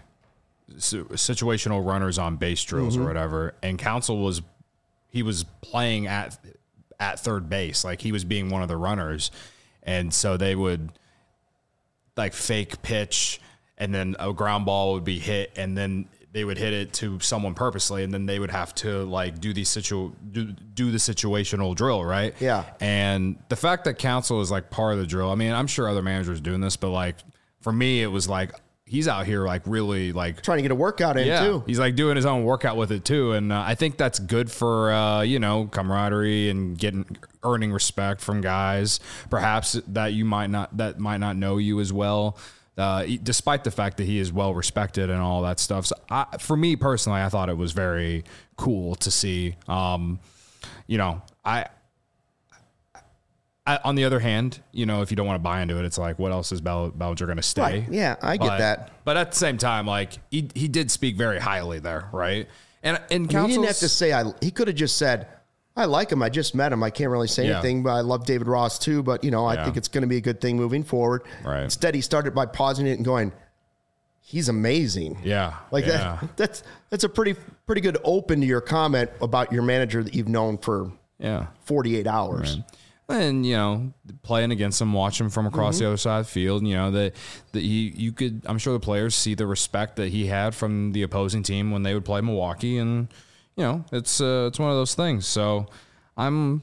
Speaker 2: runners on base drills or whatever, and Counsell was playing at third base, like he was being one of the runners, and so they would like fake pitch, and then a ground ball would be hit, and then they would hit it to someone purposely, and then they would have to like do the situational drill, right?
Speaker 1: Yeah.
Speaker 2: And the fact that Counsell is like part of the drill, I mean, I'm sure other managers doing this, but like for me, it was like he's out here like really like
Speaker 1: trying to get a workout in too.
Speaker 2: He's like doing his own workout with it too, and I think that's good for camaraderie and earning respect from guys perhaps that might not know you as well. Despite the fact that he is well respected and all that stuff. So for me personally, I thought it was very cool to see. On the other hand, if you don't want to buy into it, it's like, what else is Bellinger going to stay?
Speaker 1: Right. Yeah, I get that.
Speaker 2: But at the same time, like he did speak very highly there, right? And
Speaker 1: he didn't have to say he could have just said, I like him. I just met him. I can't really say anything, but I love David Ross too. But, I think it's going to be a good thing moving forward.
Speaker 2: Right.
Speaker 1: Instead, he started by pausing it and going, he's amazing.
Speaker 2: Yeah.
Speaker 1: That's a pretty good open to your comment about your manager that you've known for 48 hours.
Speaker 2: Right. And, playing against him, watch him from across the other side of the field, that you could, I'm sure the players see the respect that he had from the opposing team when they would play Milwaukee, and it's one of those things. So I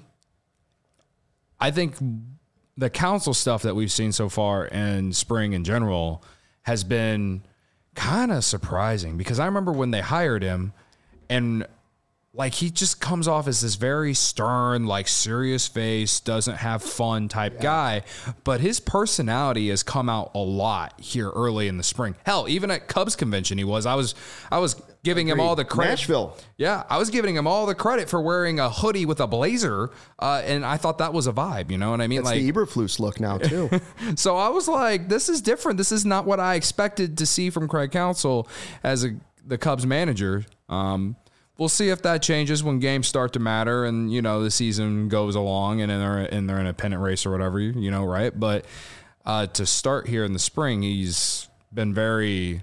Speaker 2: think the Counsell stuff that we've seen so far in spring in general has been kind of surprising, because I remember when they hired him, and like he just comes off as this very stern, like serious face, doesn't have fun type guy, but his personality has come out a lot here early in the spring. Hell, even at Cubs convention, I was giving him all the credit.
Speaker 1: Nashville.
Speaker 2: Yeah, I was giving him all the credit for wearing a hoodie with a blazer, and I thought that was a vibe. You know what I mean?
Speaker 1: It's like the Eberflus look now too.
Speaker 2: So I was like, this is different. This is not what I expected to see from Craig Counsell as the Cubs manager. We'll see if that changes when games start to matter and, the season goes along and they're in a pennant race or whatever, right? But to start here in the spring, it's been very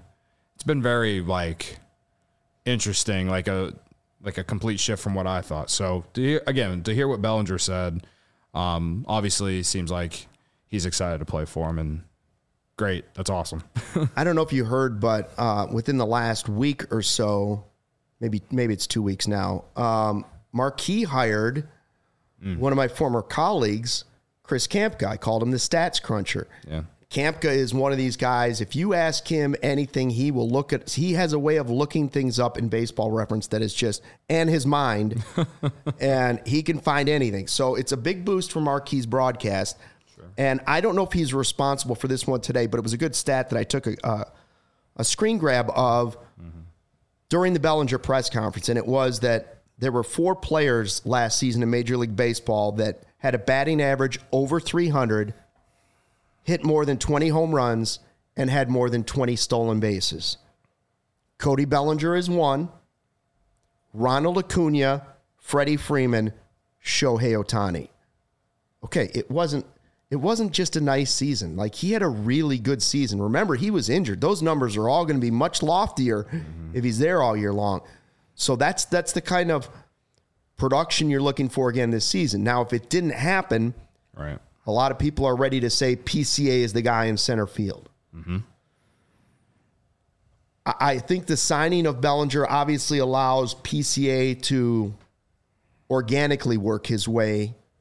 Speaker 2: like interesting, like a complete shift from what I thought. So to hear what Bellinger said, obviously it seems like he's excited to play for him, and great. That's awesome.
Speaker 1: I don't know if you heard, but within the last week or so, maybe it's 2 weeks now, Marquee hired one of my former colleagues, Chris Kampka. I called him the stats cruncher.
Speaker 2: Yeah.
Speaker 1: Kampka is one of these guys, if you ask him anything, he has a way of looking things up in Baseball Reference that is just, and his mind, and he can find anything. So it's a big boost for Marquee's broadcast. Sure. And I don't know if he's responsible for this one today, but it was a good stat that I took a screen grab of during the Bellinger press conference, and it was that there were 4 players last season in Major League Baseball that had a batting average over 300, hit more than 20 home runs, and had more than 20 stolen bases. Cody Bellinger is one. Ronald Acuna, Freddie Freeman, Shohei Ohtani. Okay, it wasn't just a nice season. Like, he had a really good season. Remember, he was injured. Those numbers are all going to be much loftier if he's there all year long. So that's the kind of production you're looking for again this season. Now, if it didn't happen,
Speaker 2: right,
Speaker 1: a lot of people are ready to say PCA is the guy in center field.
Speaker 2: Mm-hmm.
Speaker 1: I think the signing of Bellinger obviously allows PCA to organically work his way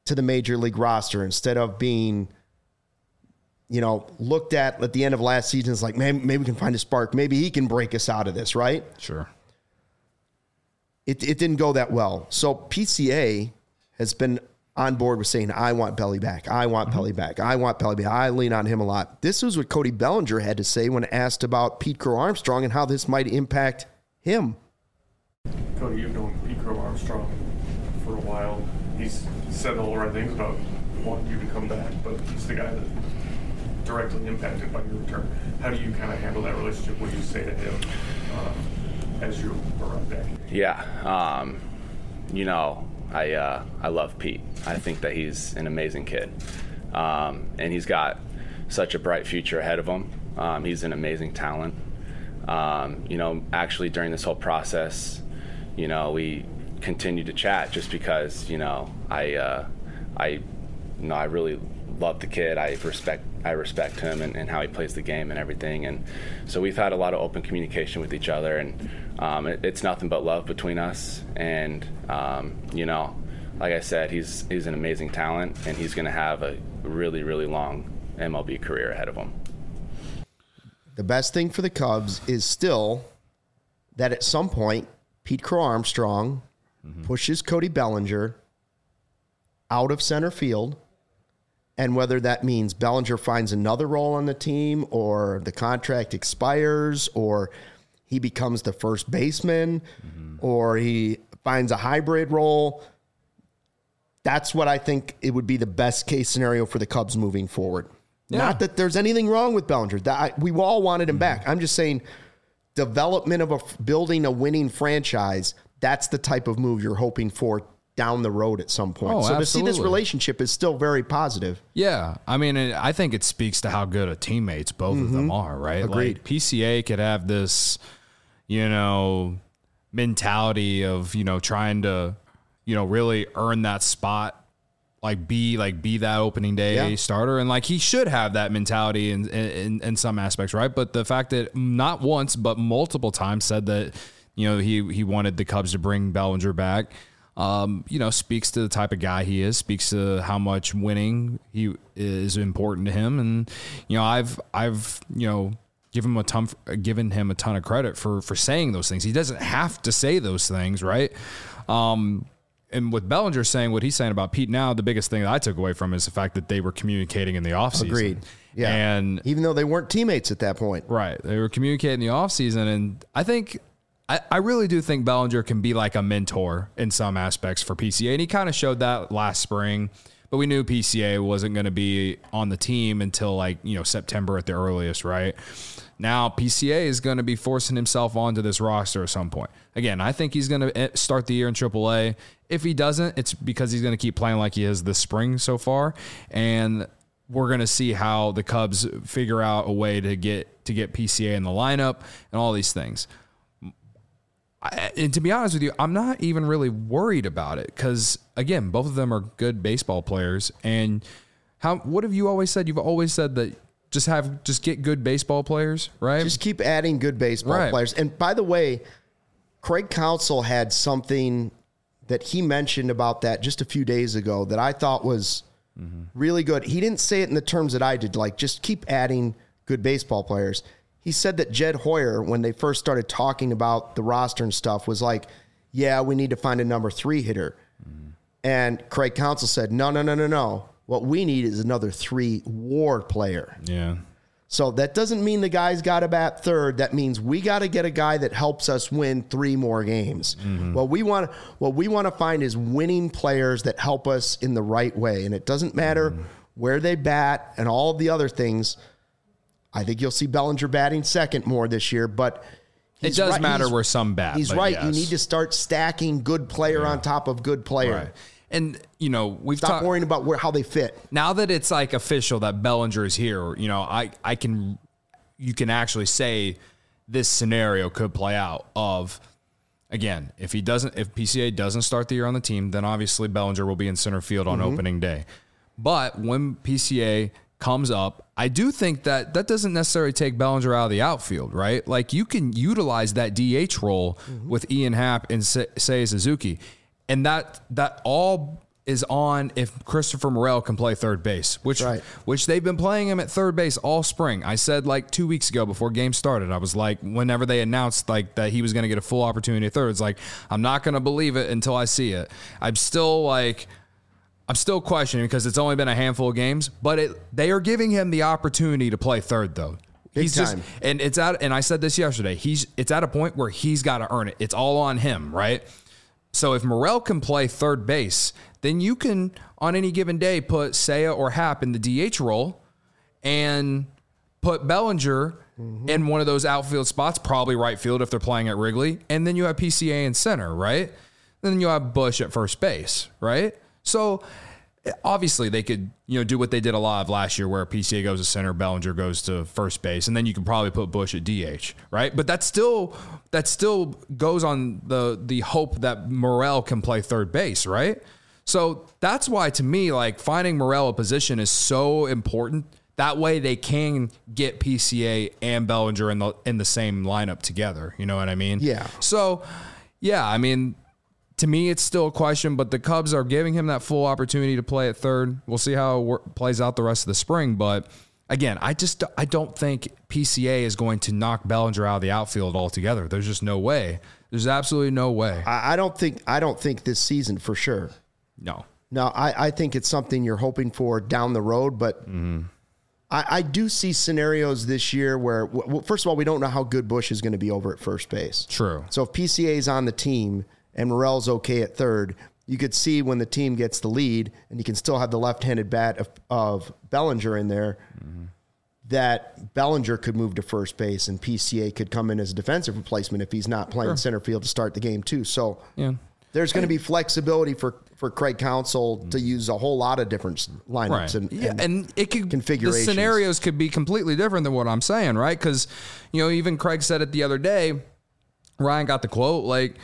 Speaker 1: to the major league roster instead of being, looked at the end of last season as like, man, maybe we can find a spark. Maybe he can break us out of this, right?
Speaker 2: Sure.
Speaker 1: It didn't go that well. So PCA has been on board with saying, I want Belly back. I want Belly back. I want Belly back. I lean on him a lot. This was what Cody Bellinger had to say when asked about Pete Crow Armstrong and how this might impact him.
Speaker 10: Cody, you've known Pete Crow Armstrong for a while. He's said all the right things about wanting you to come back, but he's the guy that directly impacted by your return. How do you kind of handle that relationship? What do you say to him as you arrive back?
Speaker 5: Yeah, I love Pete. I think that he's an amazing kid, and he's got such a bright future ahead of him. He's an amazing talent. Actually during this whole process, we continued to chat just because, I really love the kid. I respect him and how he plays the game and everything. And so we've had a lot of open communication with each other, and it's nothing but love between us. And, like I said, he's an amazing talent, and he's going to have a really, really long MLB career ahead of him.
Speaker 1: The best thing for the Cubs is still that at some point, Pete Crow Armstrong pushes Cody Bellinger out of center field. And whether that means Bellinger finds another role on the team, or the contract expires, or he becomes the first baseman, or he finds a hybrid role, that's what I think it would be the best case scenario for the Cubs moving forward. Yeah. Not that there's anything wrong with Bellinger. We all wanted him back. I'm just saying development of building a winning franchise, that's the type of move you're hoping for down the road at some point. So to see this relationship is still very positive.
Speaker 2: Yeah. I mean, I think it speaks to how good of teammates both of them are, right?
Speaker 1: Agreed.
Speaker 2: Like PCA could have this, mentality of, trying to, really earn that spot, be that opening day starter. And he should have that mentality in some aspects, right? But the fact that not once, but multiple times said that, he wanted the Cubs to bring Bellinger back, speaks to the type of guy he is, speaks to how much winning is important to him. And, I've given him a ton of credit for saying those things. He doesn't have to say those things, right? And with Bellinger saying what he's saying about Pete now, the biggest thing that I took away from is the fact that they were communicating in the offseason.
Speaker 1: Agreed. Yeah.
Speaker 2: And
Speaker 1: even though they weren't teammates at that point.
Speaker 2: Right. They were communicating in the offseason. And I think, I really do think Bellinger can be like a mentor in some aspects for PCA. And he kind of showed that last spring. But we knew PCA wasn't going to be on the team until September at the earliest, right? Now PCA is going to be forcing himself onto this roster at some point. Again, I think he's going to start the year in AAA. If he doesn't, it's because he's going to keep playing like he is this spring so far. And we're going to see how the Cubs figure out a way to get PCA in the lineup and all these things. And to be honest with you, I'm not even really worried about it because, again, both of them are good baseball players. And what have you always said? You've always said that just get good baseball players, right?
Speaker 1: Just keep adding good baseball players. And by the way, Craig Counsell had something that he mentioned about that just a few days ago that I thought was really good. He didn't say it in the terms that I did, just keep adding good baseball players. He said that Jed Hoyer, when they first started talking about the roster and stuff, was like, yeah, we need to find a number 3 hitter. And Craig Counsell said, no. What we need is another 3 WAR player.
Speaker 2: Yeah.
Speaker 1: So that doesn't mean the guy's got to bat third. That means we got to get a guy that helps us win 3 more games. What we want to find is winning players that help us in the right way. And it doesn't matter where they bat and all of the other things. I think you'll see Bellinger batting second more this year, but
Speaker 2: it does matter where some bat.
Speaker 1: He's right. Yes. You need to start stacking good player on top of good player.
Speaker 2: Right. And, we've
Speaker 1: Stop worrying about how they fit.
Speaker 2: Now that it's official that Bellinger is here, you can actually say this scenario could play out of, again, if PCA doesn't start the year on the team, then obviously Bellinger will be in center field on opening day. But when PCA comes up, I do think that doesn't necessarily take Bellinger out of the outfield, right? You can utilize that DH role with Ian Happ and Seiya Suzuki. And that all is on if Christopher Morel can play third base, which they've been playing him at third base all spring. I said like 2 weeks ago before games started, I was like, whenever they announced like that he was going to get a full opportunity at third, it's like, I'm not going to believe it until I see it. I'm still questioning because it's only been a handful of games, but they are giving him the opportunity to play third though.
Speaker 1: Big time.
Speaker 2: And I said this yesterday, it's at a point where he's got to earn it. It's all on him, right? So if Morel can play third base, then you can, on any given day, put Seiya or Happ in the DH role and put Bellinger in one of those outfield spots, probably right field if they're playing at Wrigley, and then you have PCA in center, right? Then you have Bush at first base, right? So obviously they could, do what they did a lot of last year where PCA goes to center, Bellinger goes to first base, and then you can probably put Bush at DH, right? But that still goes on the hope that Morel can play third base, right? So that's why, to me, like finding Morel a position is so important. That way they can get PCA and Bellinger in the same lineup together. You know what I mean?
Speaker 1: Yeah.
Speaker 2: So, yeah, I mean, to me, it's still a question, but the Cubs are giving him that full opportunity to play at third. We'll see how it plays out the rest of the spring. But again, I don't think PCA is going to knock Bellinger out of the outfield altogether. There's just no way. There's absolutely no way.
Speaker 1: I don't think this season for sure. No, I think it's something you're hoping for down the road, but I do see scenarios this year where, first of all, we don't know how good Bush is going to be over at first base.
Speaker 2: True.
Speaker 1: So if PCA is on the team and Morel's okay at third, you could see when the team gets the lead and you can still have the left-handed bat of Bellinger in there, that Bellinger could move to first base and PCA could come in as a defensive replacement if he's not playing center field to start the game too. So there's going to be flexibility for Craig Counsell to use a whole lot of different lineups and it could, configurations.
Speaker 2: The scenarios could be completely different than what I'm saying, right? Because, even Craig said it the other day, Ryan got the quote, like,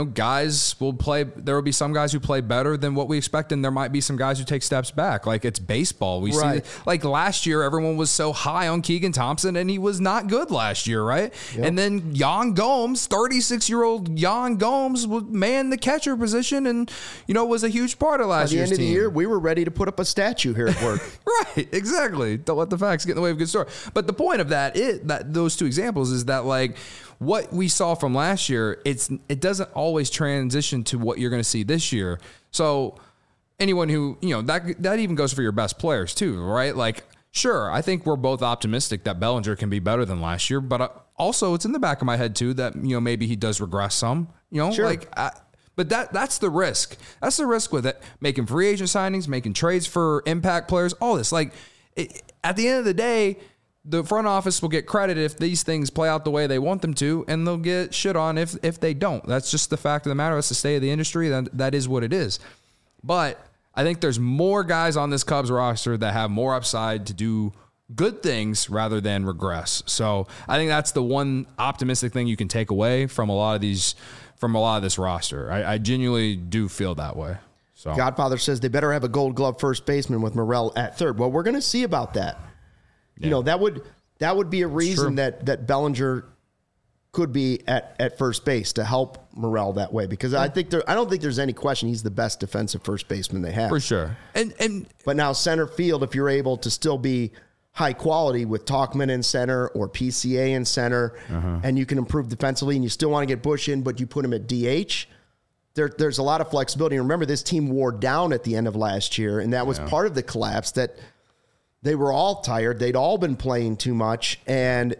Speaker 2: guys will play. There will be some guys who play better than what we expect, and there might be some guys who take steps back. Like, it's baseball. We see, like last year, everyone was so high on Keegan Thompson, and he was not good last year, right? Yep. And then Yan Gomes, 36-year-old Yan Gomes, would man the catcher position, and was a huge part of last year's team.
Speaker 1: By the end of the year, we were ready to put up a statue here at work.
Speaker 2: Right, exactly. Don't let the facts get in the way of a good story. But the point of that those two examples is that, like, what we saw from last year, it doesn't always transition to what you're going to see this year. So anyone who, that even goes for your best players too, right? Like, sure, I think we're both optimistic that Bellinger can be better than last year, but also it's in the back of my head too that, maybe he does regress some,
Speaker 1: sure.
Speaker 2: But that's the risk. That's the risk with it. Making free agent signings, making trades for impact players, all this. Like, at the end of the day, the front office will get credit if these things play out the way they want them to, and they'll get shit on if they don't. That's just the fact of the matter. That's the state of the industry. That is what it is. But I think there's more guys on this Cubs roster that have more upside to do good things rather than regress. So I think that's the one optimistic thing you can take away from a lot of this roster. I genuinely do feel that way. So
Speaker 1: Godfather says they better have a Gold Glove first baseman with Morel at third. Well, we're going to see about that. Yeah. That would be a reason that Bellinger could be at first base to help Morel that way, because I don't think there's any question he's the best defensive first baseman they have.
Speaker 2: For sure.
Speaker 1: But now center field, if you're able to still be high quality with Tauchman in center or PCA in center, and you can improve defensively and you still want to get Bush in, but you put him at DH, there's a lot of flexibility. And remember, this team wore down at the end of last year, and that was part of the collapse, that they were all tired. They'd all been playing too much, and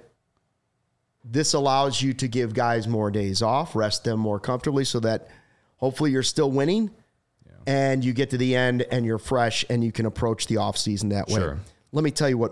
Speaker 1: this allows you to give guys more days off, rest them more comfortably, so that hopefully you're still winning and you get to the end and you're fresh and you can approach the offseason that way.
Speaker 2: Sure.
Speaker 1: Let me tell you what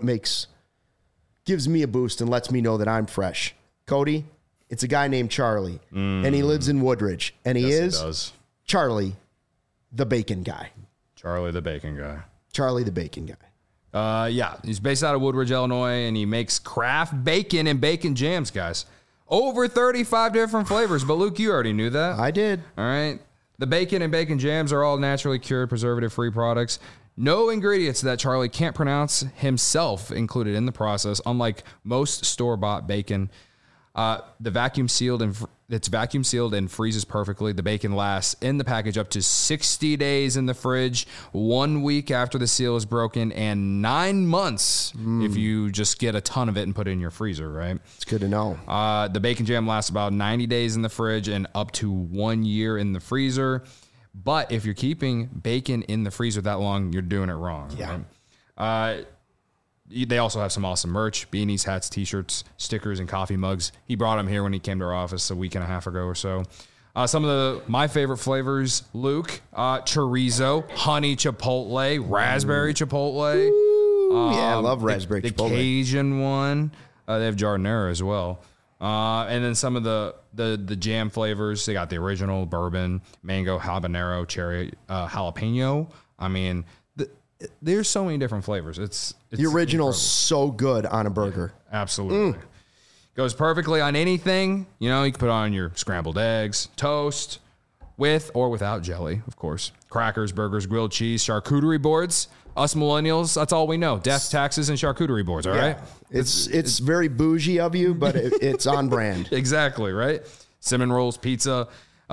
Speaker 1: gives me a boost and lets me know that I'm fresh. Cody, it's a guy named Charlie, and he lives in Woodridge, and he is Charlie the Bacon Guy.
Speaker 2: Charlie the Bacon Guy.
Speaker 1: Charlie the Bacon Guy.
Speaker 2: He's based out of Woodridge, Illinois, and he makes craft bacon and bacon jams, guys. Over 35 different flavors, but Luke, you already knew that.
Speaker 1: I did.
Speaker 2: All right. The bacon and bacon jams are all naturally cured, preservative-free products. No ingredients that Charlie can't pronounce himself included in the process, unlike most store-bought bacon. The vacuum sealed and it's vacuum sealed and freezes perfectly. The bacon lasts in the package up to 60 days in the fridge, 1 week after the seal is broken, and 9 months if you just get a ton of it and put it in your freezer, right?
Speaker 1: It's good to know.
Speaker 2: The bacon jam lasts about 90 days in the fridge and up to 1 year in the freezer. But if you're keeping bacon in the freezer that long, you're doing it wrong.
Speaker 1: Yeah.
Speaker 2: Right? They also have some awesome merch, beanies, hats, T-shirts, stickers, and coffee mugs. He brought them here when he came to our office a week and a half ago or so. Some of my favorite flavors, Luke, chorizo, honey chipotle, raspberry chipotle.
Speaker 1: Ooh, yeah, I love raspberry
Speaker 2: the
Speaker 1: chipotle.
Speaker 2: Cajun one. They have giardiniera as well. And then some of the jam flavors. They got the original bourbon, mango, habanero, cherry, jalapeno. I mean, there's so many different flavors. It's
Speaker 1: the original's
Speaker 2: incredible.
Speaker 1: So good on a burger.
Speaker 2: Yeah, absolutely. Goes perfectly on anything. You know, you can put on your scrambled eggs, toast, with or without jelly, of course. Crackers, burgers, grilled cheese, charcuterie boards. Us millennials, that's all we know. Death, taxes, and charcuterie boards, all right?
Speaker 1: It's very bougie of you, but it's on brand.
Speaker 2: Exactly, right? Cinnamon rolls, pizza.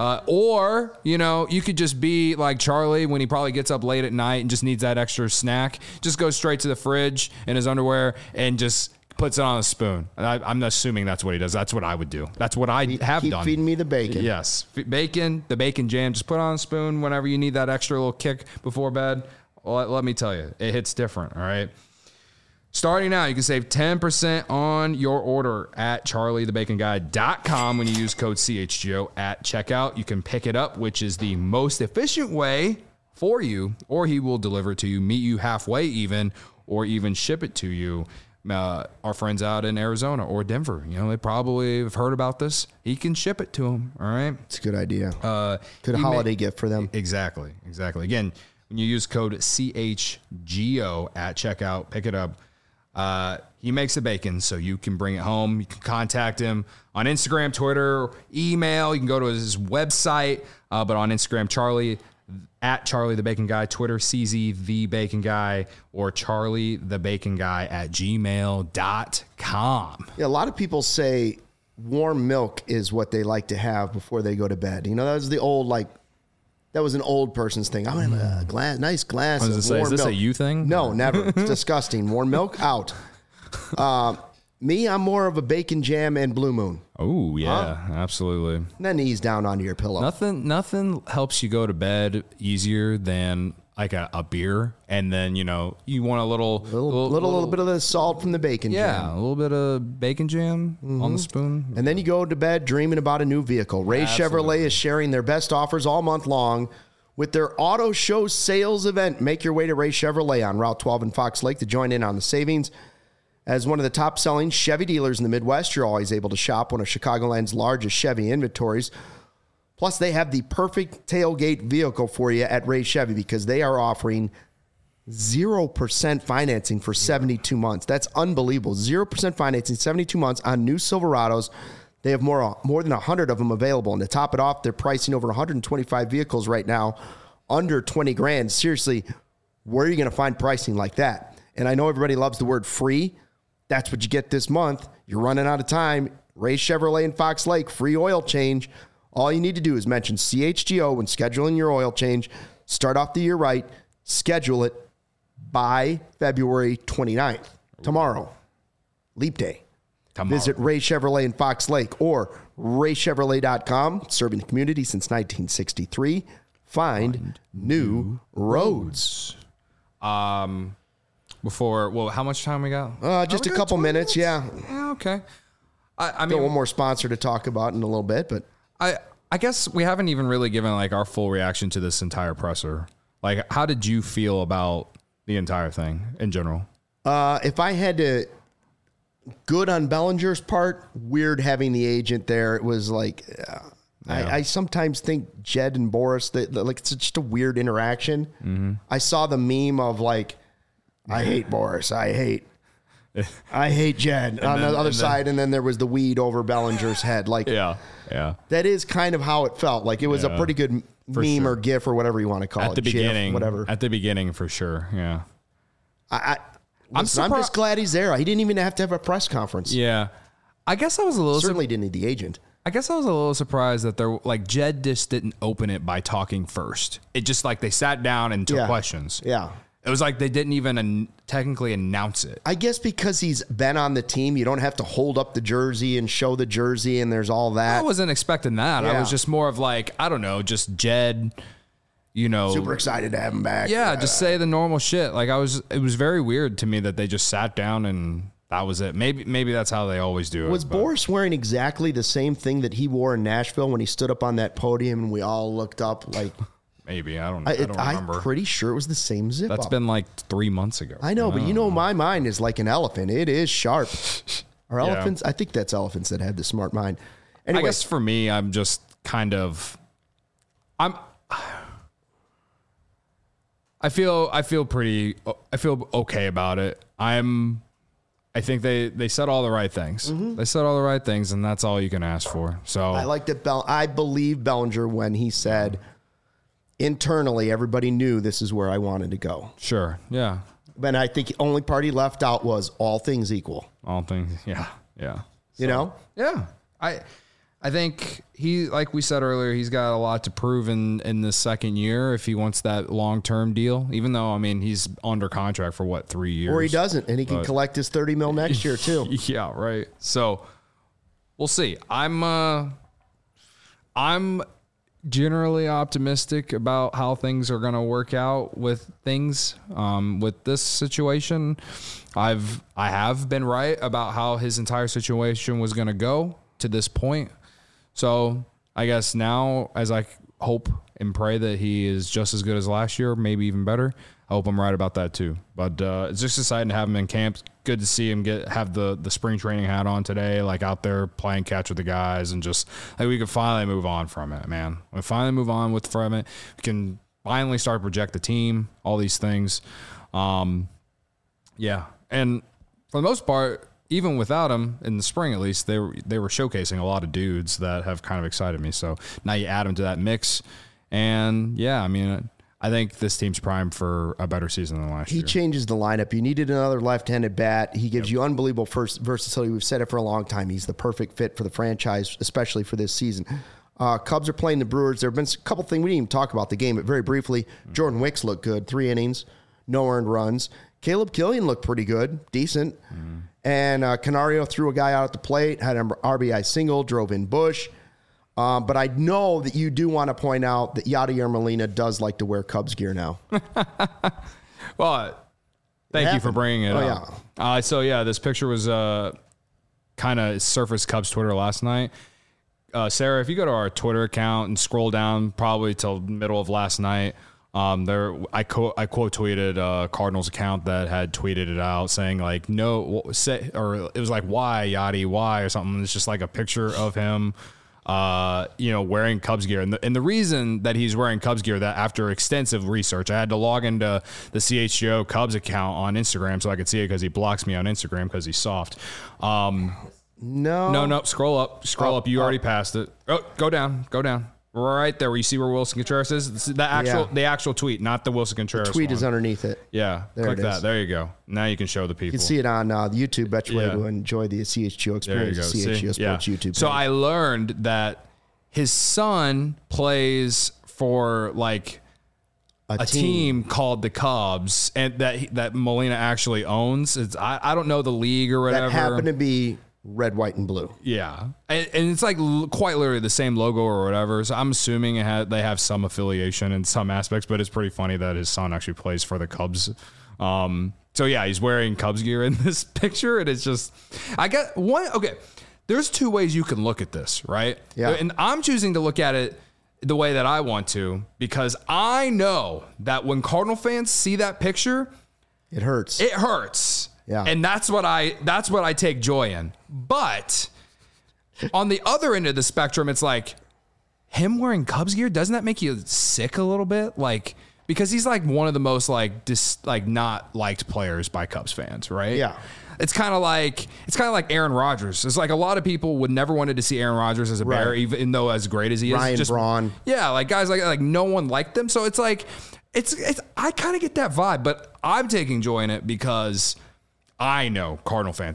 Speaker 2: Or, you know, you could just be like Charlie when he probably gets up late at night and just needs that extra snack. Just goes straight to the fridge in his underwear and just puts it on a spoon. I'm assuming that's what he does. That's what I would do. That's what I have
Speaker 1: Keep
Speaker 2: done.
Speaker 1: feeding me the bacon.
Speaker 2: Yes. Bacon, the bacon jam. Just put it on a spoon whenever you need that extra little kick before bed. Well, let me tell you, it hits different, all right? Starting now, you can save 10% on your order at charliethebaconguy.com when you use code CHGO at checkout. You can pick it up, which is the most efficient way for you, or he will deliver it to you, meet you halfway even, or even ship it to you. Our friends out in Arizona or Denver, you know, they probably have heard about this. He can ship it to them, all right?
Speaker 1: It's a good idea. Good holiday gift for them.
Speaker 2: Exactly. Again, when you use code CHGO at checkout, pick it up. He makes the bacon, so you can bring it home. You can contact him on Instagram, Twitter, email. You can go to his website, but on Instagram, at Charlie the Bacon Guy, Twitter, CZ the Bacon Guy, or Charlie the Bacon Guy at gmail.com.
Speaker 1: Yeah, a lot of people say warm milk is what they like to have before they go to bed. You know, that was that was an old person's thing. I want to have a nice glass of warm milk.
Speaker 2: Is this a you thing?
Speaker 1: No, never. It's disgusting. Warm milk, out. Me, I'm more of a bacon jam and Blue Moon.
Speaker 2: Oh, yeah, absolutely.
Speaker 1: And then ease down onto your pillow.
Speaker 2: Nothing helps you go to bed easier than like a beer, and then, you know, you want a little
Speaker 1: bit of the salt from the bacon jam.
Speaker 2: Yeah, a little bit of bacon jam on the spoon.
Speaker 1: And then you go to bed dreaming about a new vehicle. Ray Chevrolet is sharing their best offers all month long with their auto show sales event. Make your way to Ray Chevrolet on Route 12 in Fox Lake to join in on the savings. As one of the top-selling Chevy dealers in the Midwest, you're always able to shop one of Chicagoland's largest Chevy inventories. Plus, they have the perfect tailgate vehicle for you at Ray Chevy because they are offering 0% financing for 72 months. That's unbelievable. 0% financing, 72 months on new Silverados. They have more than 100 of them available. And to top it off, they're pricing over 125 vehicles right now under 20 grand. Seriously, where are you going to find pricing like that? And I know everybody loves the word free. That's what you get this month. You're running out of time. Ray Chevrolet in Fox Lake, free oil change. All you need to do is mention CHGO when scheduling your oil change. Start off the year right. Schedule it by February 29th. Tomorrow. Leap Day. Visit Ray Chevrolet in Fox Lake or raychevrolet.com. Serving the community since 1963. Find new roads.
Speaker 2: How much time we got?
Speaker 1: Just a couple minutes, yeah.
Speaker 2: Okay. I
Speaker 1: Got
Speaker 2: mean,
Speaker 1: one more sponsor to talk about in a little bit, but
Speaker 2: I guess we haven't even really given like our full reaction to this entire presser. Like, how did you feel about the entire thing in general?
Speaker 1: If I had to, good on Bellinger's part, weird having the agent there. It was like, I sometimes think Jed and Boris, like it's just a weird interaction. Mm-hmm. I saw the meme of like, I hate Boris. I hate Jed on the other side. And then there was the weed over Bellinger's head. Like,
Speaker 2: yeah.
Speaker 1: That is kind of how it felt. Like it was a pretty good meme or GIF or whatever you want to call it.
Speaker 2: At the beginning,
Speaker 1: whatever.
Speaker 2: At the beginning, for sure. Yeah.
Speaker 1: I'm just glad he's there. He didn't even have to have a press conference.
Speaker 2: Yeah. I guess I was a little
Speaker 1: Certainly didn't need the agent.
Speaker 2: I guess I was a little surprised that they're like Jed just didn't open it by talking first. It just like they sat down and took questions.
Speaker 1: Yeah.
Speaker 2: It was like they didn't even technically announce it.
Speaker 1: I guess because he's been on the team, you don't have to hold up the jersey and show the jersey, and there's all that.
Speaker 2: I wasn't expecting that.
Speaker 1: Yeah.
Speaker 2: I was just more of like, I don't know, just Jed,
Speaker 1: super excited to have him back.
Speaker 2: Yeah, just say the normal shit. Like it was very weird to me that they just sat down and that was it. Maybe that's how they always do it.
Speaker 1: Was Boris wearing exactly the same thing that he wore in Nashville when he stood up on that podium and we all looked up like...
Speaker 2: Maybe. I don't remember.
Speaker 1: I'm pretty sure it was the same zip
Speaker 2: That's
Speaker 1: up.
Speaker 2: been like 3 months ago.
Speaker 1: I know, but my mind is like an elephant. It is sharp. Are elephants? I think that's elephants that had the smart mind. Anyway,
Speaker 2: I guess for me, I'm just kind of... I feel okay about it. I think they said all the right things. Mm-hmm. They said all the right things, and that's all you can ask for. So
Speaker 1: I like that. I believe Bellinger when he said internally everybody knew this is where I wanted to go.
Speaker 2: Sure, yeah.
Speaker 1: But I think the only part he left out was all things equal.
Speaker 2: All things, yeah.
Speaker 1: So,
Speaker 2: yeah. I think he, like we said earlier, he's got a lot to prove in this second year if he wants that long-term deal, even though, I mean, he's under contract for 3 years.
Speaker 1: Or he doesn't, and he can collect his $30 million next year too.
Speaker 2: Yeah, right. So we'll see. I'm generally optimistic about how things are going to work out with things. With this situation, I have been right about how his entire situation was going to go to this point. So I guess now, as I hope and pray that he is just as good as last year, maybe even better, I hope I'm right about that too. But it's just exciting to have him in camp. Good to see him have the spring training hat on today, like out there playing catch with the guys, and just like we can finally move on from it, man. We finally move on from it. We can finally start to project the team, all these things. Yeah, and for the most part, even without him in the spring, at least they were showcasing a lot of dudes that have kind of excited me. So now you add them to that mix, and yeah, I mean, I think this team's primed for a better season than last year.
Speaker 1: He changes the lineup. You needed another left-handed bat. He gives you unbelievable versatility. We've said it for a long time. He's the perfect fit for the franchise, especially for this season. Cubs are playing the Brewers. There have been a couple things. We didn't even talk about the game, but very briefly, Jordan Wicks looked good. 3 innings, no earned runs. Caleb Killian looked pretty good, decent. And Canario threw a guy out at the plate, had an RBI single, drove in Bush. But I know that you do want to point out that Yadier Molina does like to wear Cubs gear now.
Speaker 2: Well, thank you for bringing it up. Yeah. So, yeah, this picture was kind of surfaced Cubs Twitter last night. Sarah, if you go to our Twitter account and scroll down probably till middle of last night, I quote tweeted Cardinals account that had tweeted it out saying like or it was like why Yachty why or something. It's just like a picture of him wearing Cubs gear, and the reason that he's wearing Cubs gear, that after extensive research, I had to log into the CHGO Cubs account on Instagram so I could see it because he blocks me on Instagram because he's soft. No, scroll up. You already passed it. Oh, go down. Right there where you see where Wilson Contreras is. This is the actual tweet, not the Wilson Contreras
Speaker 1: The tweet
Speaker 2: one.
Speaker 1: is underneath it.
Speaker 2: Yeah, click that. There you go. Now you can show the people.
Speaker 1: You can see it on YouTube. Bet you will enjoy the CHGO experience. CHGO Sports YouTube page.
Speaker 2: So I learned that his son plays for like a team called the Cubs, and that Molina actually owns. I don't know the league or whatever.
Speaker 1: That happened to be red, white, and blue.
Speaker 2: Yeah. And it's like quite literally the same logo or whatever. So I'm assuming they have some affiliation in some aspects, but it's pretty funny that his son actually plays for the Cubs. So yeah, he's wearing Cubs gear in this picture. And it's just, there's 2 ways you can look at this, right?
Speaker 1: Yeah.
Speaker 2: And I'm choosing to look at it the way that I want to, because I know that when Cardinal fans see that picture,
Speaker 1: it hurts.
Speaker 2: Yeah. And that's what I take joy in. But on the other end of the spectrum, it's like him wearing Cubs gear, doesn't that make you sick a little bit? Like, because he's like one of the most not liked players by Cubs fans, right?
Speaker 1: Yeah.
Speaker 2: It's kind of like Aaron Rodgers. It's like a lot of people would never wanted to see Aaron Rodgers as a Bear, even though as great as he is.
Speaker 1: Ryan Braun.
Speaker 2: Yeah, like guys like no one liked them. So it's like it's I kind of get that vibe, but I'm taking joy in it because I know Cardinal fans hate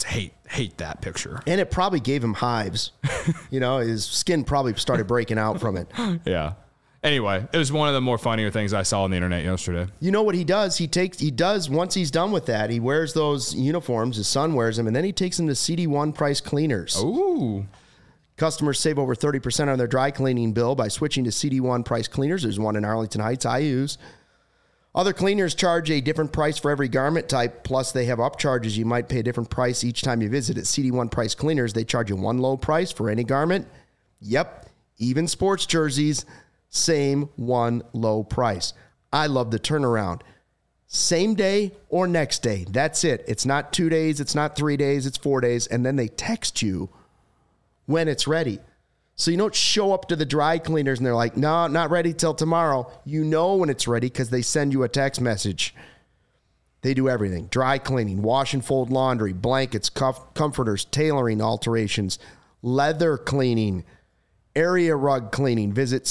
Speaker 2: hate that picture.
Speaker 1: And it probably gave him hives. His skin probably started breaking out from it.
Speaker 2: Yeah. Anyway, it was one of the more funnier things I saw on the internet yesterday.
Speaker 1: You know what he does? He does, once he's done with that, he wears those uniforms, his son wears them, and then he takes them to CD1 Price Cleaners.
Speaker 2: Ooh.
Speaker 1: Customers save over 30% on their dry cleaning bill by switching to CD1 Price Cleaners. There's one in Arlington Heights I use. Other cleaners charge a different price for every garment type, plus they have upcharges. You might pay a different price each time you visit. At CD1 Price Cleaners, they charge you one low price for any garment. Yep, even sports jerseys, same one low price. I love the turnaround. Same day or next day. That's it. It's not 2 days. It's not 3 days. It's 4 days. And then they text you when it's ready. So you don't show up to the dry cleaners and they're like, no, not ready till tomorrow. You know when it's ready because they send you a text message. They do everything. Dry cleaning, wash and fold laundry, blankets, comforters, tailoring alterations, leather cleaning, area rug cleaning. Visit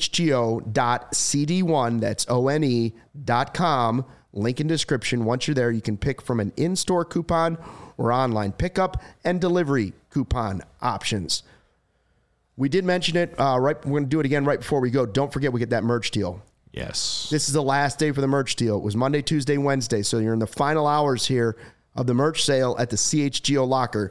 Speaker 1: chgo.cd1, that's one.com. Link in description. Once you're there, you can pick from an in-store coupon or online pickup and delivery coupon options. We did mention it. We're going to do it again right before we go. Don't forget we get that merch deal.
Speaker 2: Yes.
Speaker 1: This is the last day for the merch deal. It was Monday, Tuesday, Wednesday. So you're in the final hours here of the merch sale at the CHGO locker.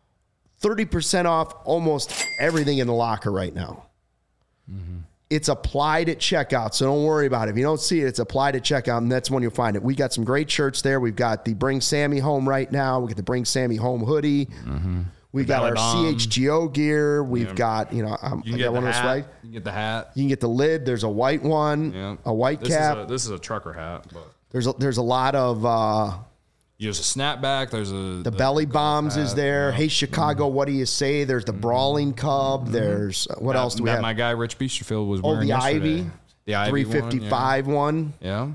Speaker 1: 30% off almost everything in the locker right now. Mm-hmm. It's applied at checkout, so don't worry about it. If you don't see it, it's applied at checkout, and that's when you'll find it. We got some great shirts there. We've got the Bring Sammy Home right now. We got the Bring Sammy Home hoodie. Mm-hmm. We've got our CHGO gear. We've got, I got one of those, right?
Speaker 2: You can get the hat.
Speaker 1: You can get the lid. There's a white one, a white cap.
Speaker 2: This is a trucker hat. But
Speaker 1: there's a lot of...
Speaker 2: There's a snapback. There's the
Speaker 1: belly bombs is there. Yeah. Hey, Chicago, what do you say? There's the Brawling Cub. Mm-hmm. There's what else do we have?
Speaker 2: My guy Rich Biesterfield was wearing yesterday.
Speaker 1: The Ivy 355 one.
Speaker 2: Yeah.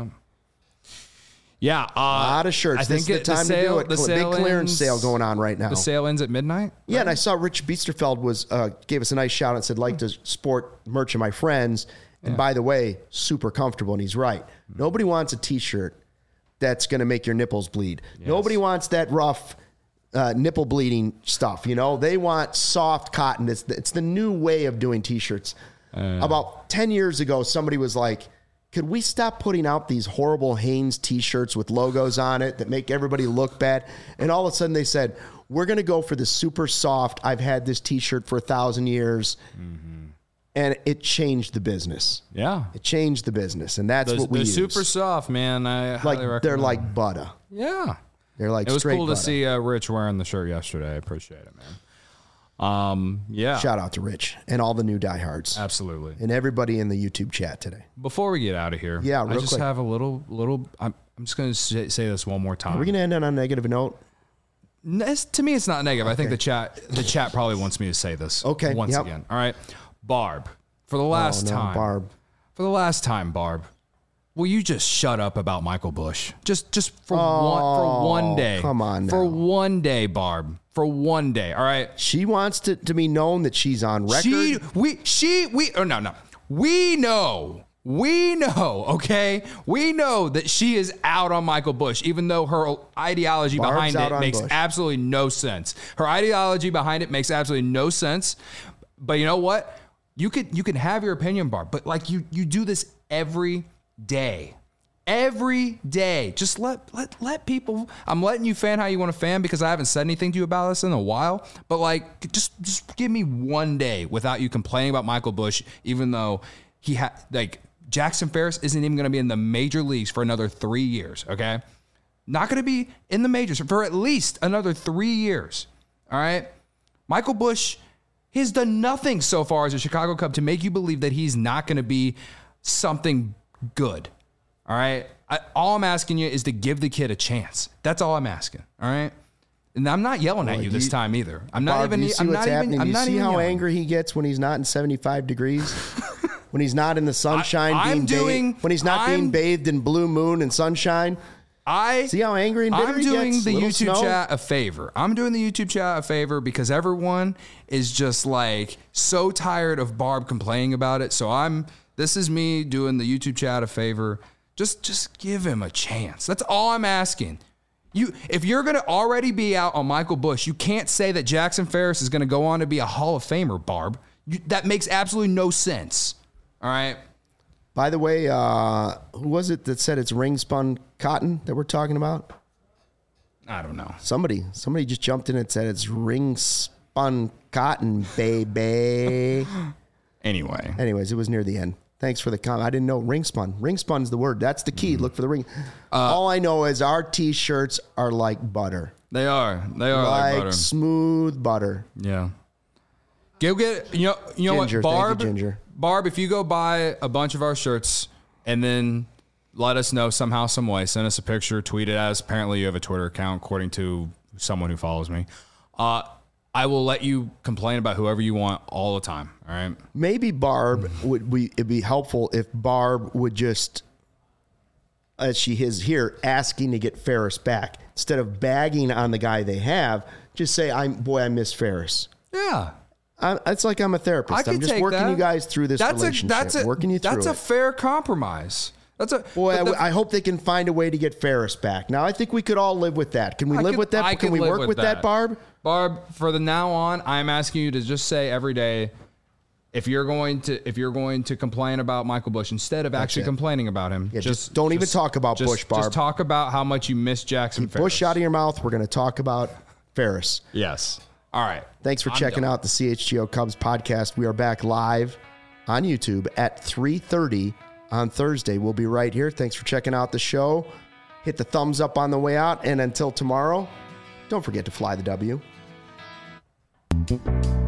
Speaker 2: A
Speaker 1: lot of shirts. This is the time to do it. The big clearance sale going on right now.
Speaker 2: The sale ends at midnight.
Speaker 1: Yeah, and I saw Rich Biesterfeld gave us a nice shout out and said, like to sport merch of my friends. And by the way, super comfortable. And he's right. Nobody wants a T-shirt that's going to make your nipples bleed. Yes. Nobody wants that rough nipple bleeding stuff. They want soft cotton. It's the new way of doing T-shirts. About 10 years ago, somebody was like, could we stop putting out these horrible Hanes T-shirts with logos on it that make everybody look bad? And all of a sudden they said, we're going to go for the super soft. I've had this T-shirt for 1,000 years. Mm-hmm. And it changed the business.
Speaker 2: Yeah.
Speaker 1: It changed the business. And that's what we use.
Speaker 2: They're super soft, man. I highly recommend
Speaker 1: they're like butter.
Speaker 2: Yeah.
Speaker 1: They're like
Speaker 2: it was
Speaker 1: straight
Speaker 2: cool
Speaker 1: butter.
Speaker 2: To see Rich wearing the shirt yesterday. I appreciate it, man. Yeah.
Speaker 1: Shout out to Rich and all the new diehards.
Speaker 2: Absolutely.
Speaker 1: And everybody in the YouTube chat today.
Speaker 2: Before we get out of here, I just have a little I'm just going to say this one more time.
Speaker 1: Are we going to end on a negative note?
Speaker 2: To me, it's not negative. Okay. I think the chat probably wants me to say this once again. All right. Barb, for the last time.
Speaker 1: Barb.
Speaker 2: For the last time, Barb. Will you just shut up about Michael Bush? Just for one day.
Speaker 1: Come on now.
Speaker 2: For one day, Barb. For one day. All right.
Speaker 1: She wants to be known that she's on record.
Speaker 2: We know, okay? We know that she is out on Michael Bush, even though her ideology behind it makes absolutely no sense. Her ideology behind it makes absolutely no sense. But you know what? You can have your opinion, Barb, but like you do this every day. Every day. Just let people. I'm letting you fan how you want to fan because I haven't said anything to you about this in a while. But like, just give me one day without you complaining about Michael Bush, even though he had Jackson Ferris isn't even going to be in the major leagues for another 3 years. Okay, not going to be in the majors for at least another 3 years. All right, Michael Bush. He's done nothing so far as a Chicago Cub to make you believe that he's not going to be something good. All right? All I'm asking you is to give the kid a chance. That's all I'm asking. All right? And I'm not yelling at you this time either. I'm not
Speaker 1: Barb,
Speaker 2: even.
Speaker 1: You see what's happening? You see how angry he gets when he's not in 75 degrees? When he's not in the sunshine when he's not being bathed in blue moon and sunshine? See how angry and bitter he gets?
Speaker 2: I'm doing the YouTube chat a favor. I'm doing the YouTube chat a favor because everyone is just like so tired of Barb complaining about it. So this is me doing the YouTube chat a favor. Just give him a chance. That's all I'm asking. If you're going to already be out on Michael Busch, you can't say that Jackson Ferris is going to go on to be a Hall of Famer, Barb. That makes absolutely no sense. All right.
Speaker 1: By the way, who was it that said it's ring spun cotton that we're talking about?
Speaker 2: I don't know.
Speaker 1: Somebody just jumped in and said it's ring spun cotton, baby. Anyways, it was near the end. Thanks for the comment. I didn't know ring spun. Ring spun's the word. That's the key. Look for the ring. All I know is our T-shirts are like butter.
Speaker 2: They are like butter.
Speaker 1: Smooth butter.
Speaker 2: Yeah. Go get you know
Speaker 1: Ginger,
Speaker 2: what, Barb?
Speaker 1: thank you, Ginger.
Speaker 2: Barb, if you go buy a bunch of our shirts and then let us know somehow, some way, send us a picture, tweet it at us. Apparently, you have a Twitter account, according to someone who follows me. I will let you complain about whoever you want all the time. All right.
Speaker 1: Maybe Barb it'd be helpful if Barb would just, as she is here, asking to get Ferris back instead of bagging on the guy they have. Just say, I miss Ferris.
Speaker 2: Yeah.
Speaker 1: It's like I'm a therapist. I'm just working you guys through this relationship. Working you through it.
Speaker 2: That's a fair compromise.
Speaker 1: I hope they can find a way to get Ferris back. Now, I think we could all live with that. Can we live with that? Can we work with that, Barb?
Speaker 2: Barb, for the now on, I'm asking you to just say every day, if you're going to complain about Michael Busch instead of actually complaining about him,
Speaker 1: just don't even talk about Busch, Barb.
Speaker 2: Just talk about how much you miss Jackson Ferris.
Speaker 1: Busch out of your mouth. We're going to talk about Ferris.
Speaker 2: Yes. All right.
Speaker 1: Thanks for checking out the CHGO Cubs podcast. We are back live on YouTube at 3:30 on Thursday. We'll be right here. Thanks for checking out the show. Hit the thumbs up on the way out. And until tomorrow, don't forget to fly the W.